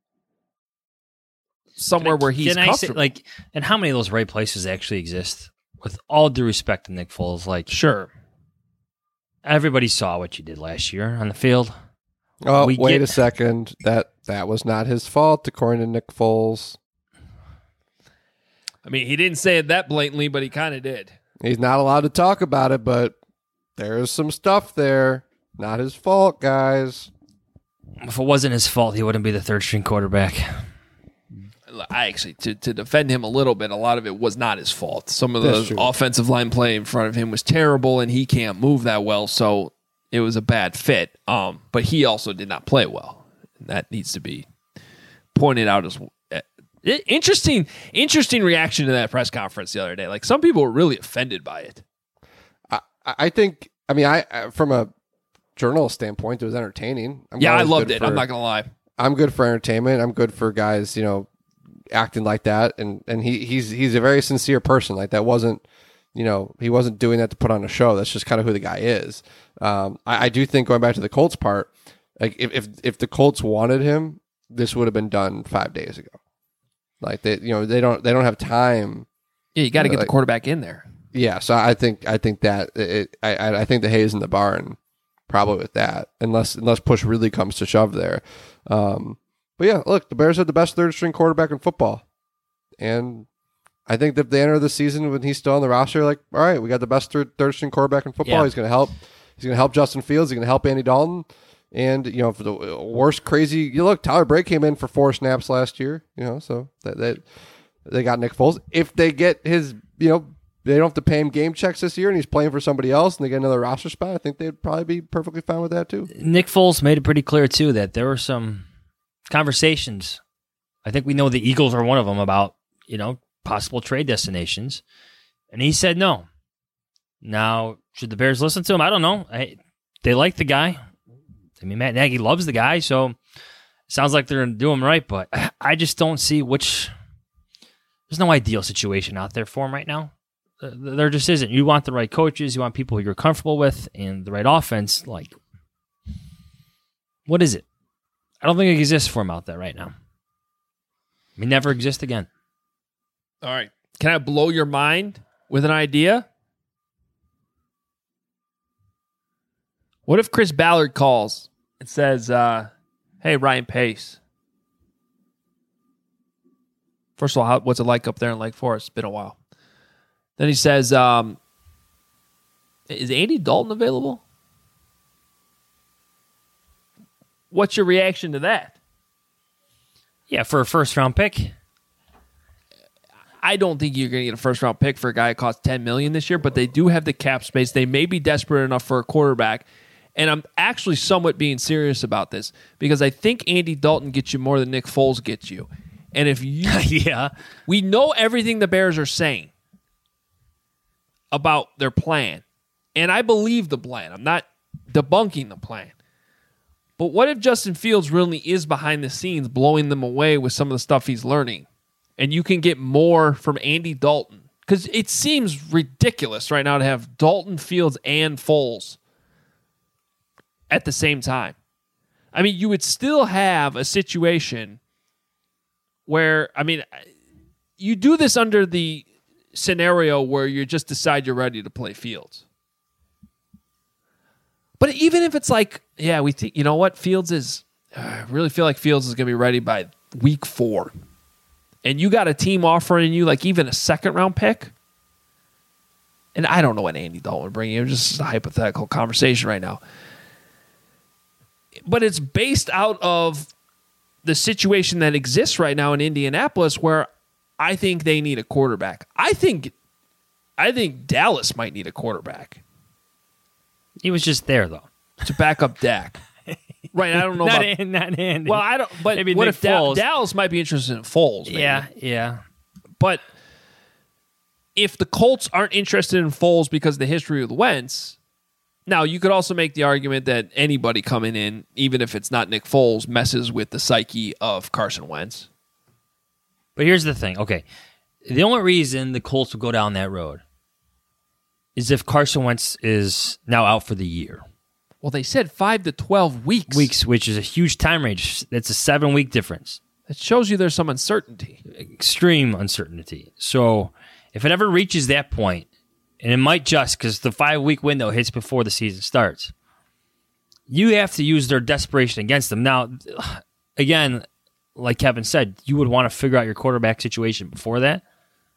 somewhere where he's comfortable? And how many of those right places actually exist? With all due respect to Nick Foles, sure, everybody saw what you did last year on the field. Oh, wait a second. That was not his fault, according to Nick Foles. I mean, he didn't say it that blatantly, but he kind of did. He's not allowed to talk about it, but there's some stuff there. Not his fault, guys. If it wasn't his fault, he wouldn't be the third-string quarterback. I actually, to defend him a little bit, a lot of it was not his fault. Some of the offensive line play in front of him was terrible, and he can't move that well, so it was a bad fit. But he also did not play well. And that needs to be pointed out as well. Interesting reaction to that press conference the other day. Like, some people were really offended by it. I think, from a journalist standpoint, it was entertaining. I loved it. I'm not going to lie. I'm good for entertainment. I'm good for guys, acting like that. And he's a very sincere person. Like, that wasn't, he wasn't doing that to put on a show. That's just kind of who the guy is. I do think, going back to the Colts part, like, if the Colts wanted him, this would have been done 5 days ago. Like, they don't have time. Yeah, you got to get the quarterback in there. Yeah, so I think that I think the hay's in the barn, probably with that, unless push really comes to shove there. But yeah, look, the Bears have the best third string quarterback in football, and I think that if they enter the season when he's still on the roster, like, all right, we got the best third string quarterback in football. Yeah. He's going to help. He's going to help Justin Fields. He's going to help Andy Dalton. And for the worst crazy, look, Tyler Bray came in for 4 snaps last year. So that they got Nick Foles. If they get his, they don't have to pay him game checks this year, and he's playing for somebody else, and they get another roster spot, I think they'd probably be perfectly fine with that too. Nick Foles made it pretty clear too that there were some conversations. I think we know the Eagles are one of them about possible trade destinations, and he said no. Now, should the Bears listen to him? I don't know. They like the guy. I mean, Matt Nagy loves the guy, so it sounds like they're going to do him right, but I just don't see which... There's no ideal situation out there for him right now. There just isn't. You want the right coaches, you want people you're comfortable with, and the right offense. Like, what is it? I don't think it exists for him out there right now. It may never exist again. All right. Can I blow your mind with an idea? What if Chris Ballard calls and says, hey, Ryan Pace. First of all, what's it like up there in Lake Forest? It's been a while. Then he says, is Andy Dalton available? What's your reaction to that? Yeah, for a first-round pick. I don't think you're going to get a first-round pick for a guy who costs $10 million this year, but they do have the cap space. They may be desperate enough for a quarterback. And I'm actually somewhat being serious about this because I think Andy Dalton gets you more than Nick Foles gets you. And if you... yeah. We know everything the Bears are saying about their plan. And I believe the plan. I'm not debunking the plan. But what if Justin Fields really is behind the scenes blowing them away with some of the stuff he's learning? And you can get more from Andy Dalton. Because it seems ridiculous right now to have Dalton, Fields, and Foles at the same time. I mean, you would still have a situation where, I mean, you do this under the scenario where you just decide you're ready to play Fields. But even if it's like, yeah, we think, you know what, Fields is, I really feel like Fields is going to be ready by week 4. And you got a team offering you like even a second-round pick. And I don't know what Andy Dalton would bring you. Just a hypothetical conversation right now. But it's based out of the situation that exists right now in Indianapolis where I think they need a quarterback. I think Dallas might need a quarterback. He was just there, though. To back up Dak. Right, I don't know not about... Not Andy. Well, I don't... But maybe what Nick if Foles. Dallas might be interested in Foles? Maybe. Yeah. But if the Colts aren't interested in Foles because of the history with Wentz... Now, you could also make the argument that anybody coming in, even if it's not Nick Foles, messes with the psyche of Carson Wentz. But here's the thing. Okay, the only reason the Colts will go down that road is if Carson Wentz is now out for the year. Well, they said 5 to 12 weeks. Which is a huge time range. That's a 7-week difference. It shows you there's some uncertainty. Extreme uncertainty. So if it ever reaches that point, and it might just because the 5-week window hits before the season starts, you have to use their desperation against them. Now, again, like Kevin said, you would want to figure out your quarterback situation before that.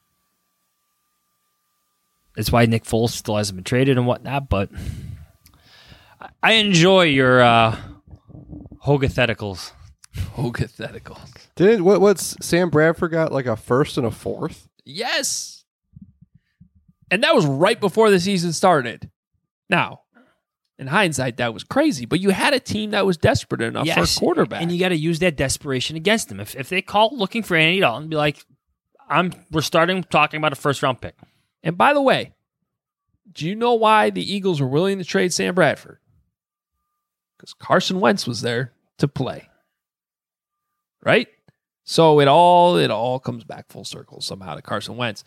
That's why Nick Foles still hasn't been traded and whatnot, but I enjoy your Hogatheticals. Didn't what's Sam Bradford got like a 1st and a 4th? Yes. And that was right before the season started. Now, in hindsight, that was crazy. But you had a team that was desperate enough for a quarterback. And you got to use that desperation against them. If they call looking for Andy Dalton, be like, we're starting talking about a first-round pick. And by the way, do you know why the Eagles were willing to trade Sam Bradford? Because Carson Wentz was there to play. Right? So it all comes back full circle somehow to Carson Wentz.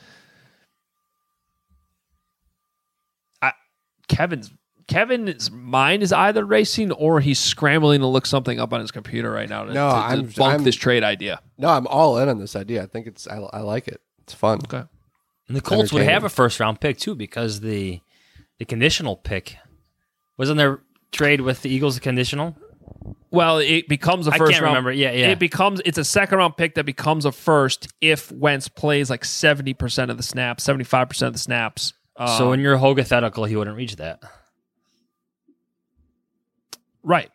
Kevin's mind is either racing or he's scrambling to look something up on his computer right now to debunk this trade idea. No, I'm all in on this idea. I think I like it. It's fun. Okay. And the Colts would have a first-round pick, too, because the conditional pick wasn't there trade with the Eagles a conditional? Well, it becomes a first round. I can't remember. Yeah. It's a second-round pick that becomes a first if Wentz plays like 70% of the snaps, 75% of the snaps. So in your Hogathetical, he wouldn't reach that. Right.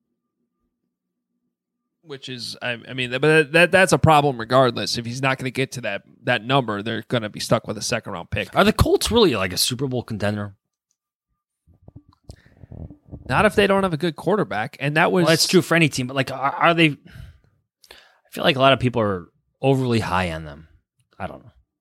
Which is, I mean, but that's a problem regardless. If he's not going to get to that number, they're going to be stuck with a second-round pick. Are the Colts really like a Super Bowl contender? Not if they don't have a good quarterback. And that was... Well, that's true for any team, but like, are they... I feel like a lot of people are overly high on them. I don't know.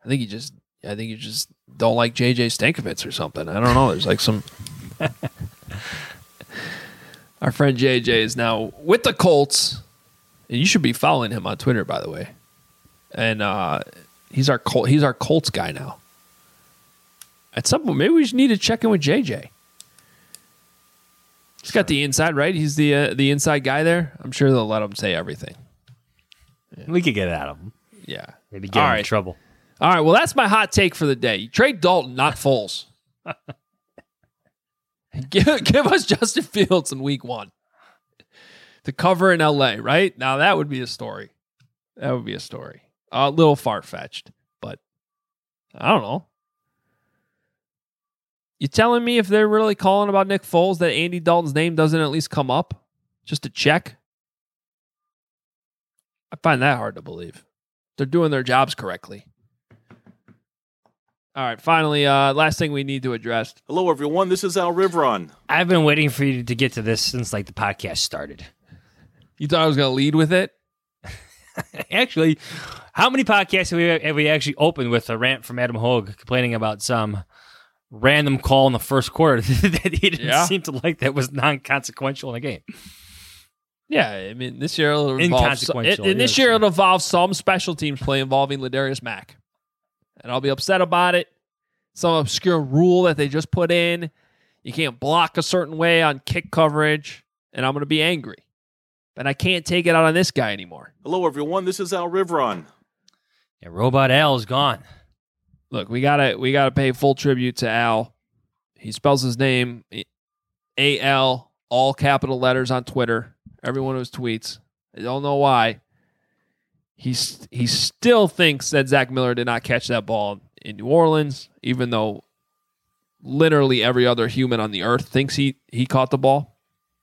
I think you just don't like JJ Stankovitz or something. I don't know. There's like some. Our friend JJ is now with the Colts, and you should be following him on Twitter, by the way. And he's our Colts guy now. At some point, maybe we need to check in with JJ. He's got the inside, right? He's the inside guy there. I'm sure they'll let him say everything. Yeah. We could get it out of him. Yeah. Maybe get him in trouble. All right, well, that's my hot take for the day. You trade Dalton, not Foles. give us Justin Fields in week 1 to cover in L.A., right? Now, that would be a story. That would be a story. A little far-fetched, but I don't know. You telling me if they're really calling about Nick Foles that Andy Dalton's name doesn't at least come up just to check? I find that hard to believe. They're doing their jobs correctly. All right, finally, last thing we need to address. Hello, everyone. This is Al Rivron. I've been waiting for you to get to this since the podcast started. You thought I was going to lead with it? Actually, how many podcasts have we actually opened with a rant from Adam Hogue complaining about some random call in the first quarter that he didn't seem to like that was non-consequential in the game? Yeah, I mean, this year it'll involve some special teams play involving Ladarius Mack. And I'll be upset about it. Some obscure rule that they just put in. You can't block a certain way on kick coverage. And I'm going to be angry. But I can't take it out on this guy anymore. Hello, everyone. This is Al Rivron. Yeah, Robot Al is gone. Look, we gotta pay full tribute to Al. He spells his name A-L, all capital letters on Twitter. Every one of his tweets. I don't know why. He still thinks that Zach Miller did not catch that ball in New Orleans, even though literally every other human on the earth thinks he caught the ball.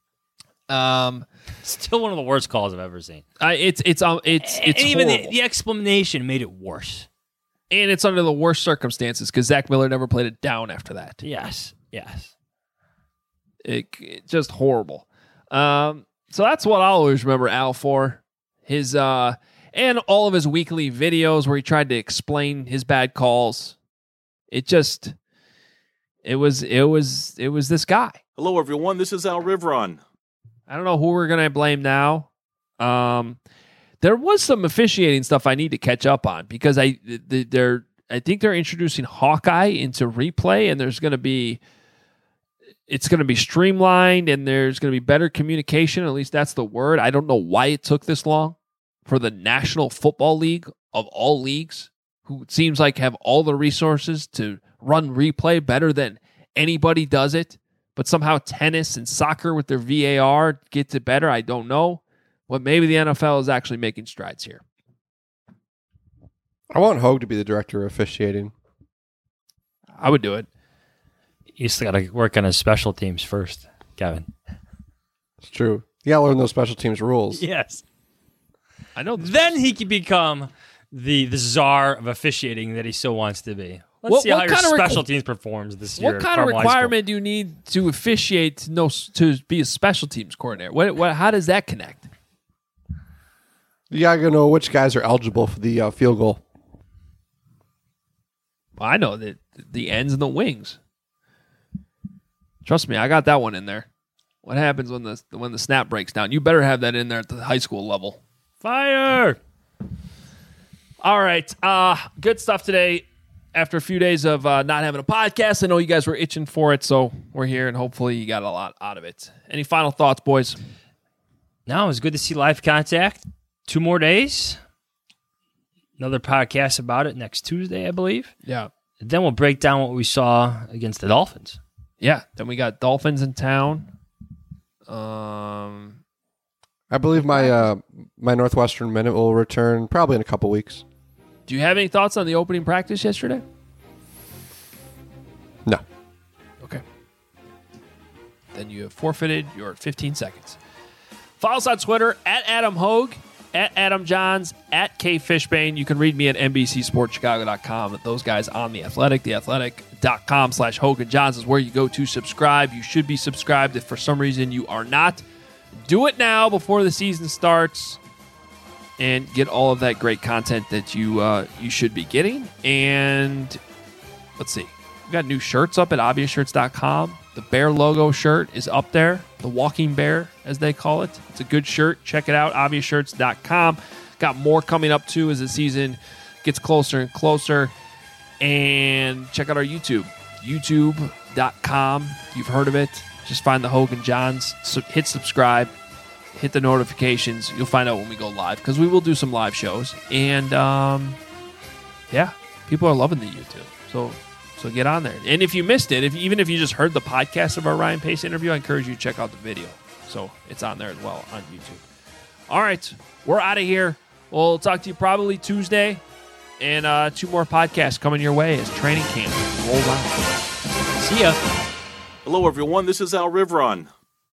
Still one of the worst calls I've ever seen. It's even horrible. the explanation made it worse. And it's under the worst circumstances because Zach Miller never played it down after that. Yes. It just horrible. So that's what I'll always remember Al for. His and all of his weekly videos where he tried to explain his bad calls. It was this guy. Hello, everyone. This is Al Rivron. I don't know who we're going to blame now. There was some officiating stuff I need to catch up on because I think they're introducing Hawkeye into replay, and it's going to be streamlined, and there's going to be better communication. At least that's the word. I don't know why it took this long for the National Football League of all leagues, who it seems like have all the resources to run replay better than anybody does it. But somehow tennis and soccer with their VAR gets it better. I don't know. But maybe the NFL is actually making strides here. I want Hogue to be the director of officiating. I would do it. You still got to work on his special teams first, Kevin. It's true. You got to learn those special teams rules. Yes. I know. Then he can become the czar of officiating that he still wants to be. Let's see how your special teams performs this year. What kind of requirement do you need to officiate to be a special teams coordinator? How does that connect? You got to know which guys are eligible for the field goal. Well, I know that the ends and the wings. Trust me, I got that one in there. What happens when the snap breaks down? You better have that in there at the high school level. Fire! All right. Good stuff today. After a few days of not having a podcast, I know you guys were itching for it, so we're here, and hopefully you got a lot out of it. Any final thoughts, boys? No, it was good to see live contact. 2 more days. Another podcast about it next Tuesday, I believe. Yeah. And then we'll break down what we saw against the Dolphins. Yeah. Then we got Dolphins in town. I believe my Northwestern Minute will return probably in a couple weeks. Do you have any thoughts on the opening practice yesterday? No. Okay. Then you have forfeited your 15 seconds. Follow us on Twitter at Adam Hogue, at Adam Johns, at K Fishbane. You can read me at NBCSportsChicago.com. Those guys on The Athletic. TheAthletic.com/Hogue and Johns is where you go to subscribe. You should be subscribed. If for some reason you are not, do it now before the season starts. and get all of that great content that you should be getting. And let's see. We've got new shirts up at obviousshirts.com. The bear logo shirt is up there. The walking bear, as they call it. It's a good shirt. Check it out, obviousshirts.com. Got more coming up, too, as the season gets closer and closer. And check out our YouTube, youtube.com. You've heard of it. Just find the Hogan Johns. So hit subscribe. Hit the notifications. You'll find out when we go live, because we will do some live shows. And, yeah, people are loving the YouTube. So get on there. And if you missed it, even if you just heard the podcast of our Ryan Pace interview, I encourage you to check out the video. So it's on there as well on YouTube. All right, we're out of here. We'll talk to you probably Tuesday. And 2 more podcasts coming your way as training camp rolls on. See ya. Hello, everyone. This is Al Riveron.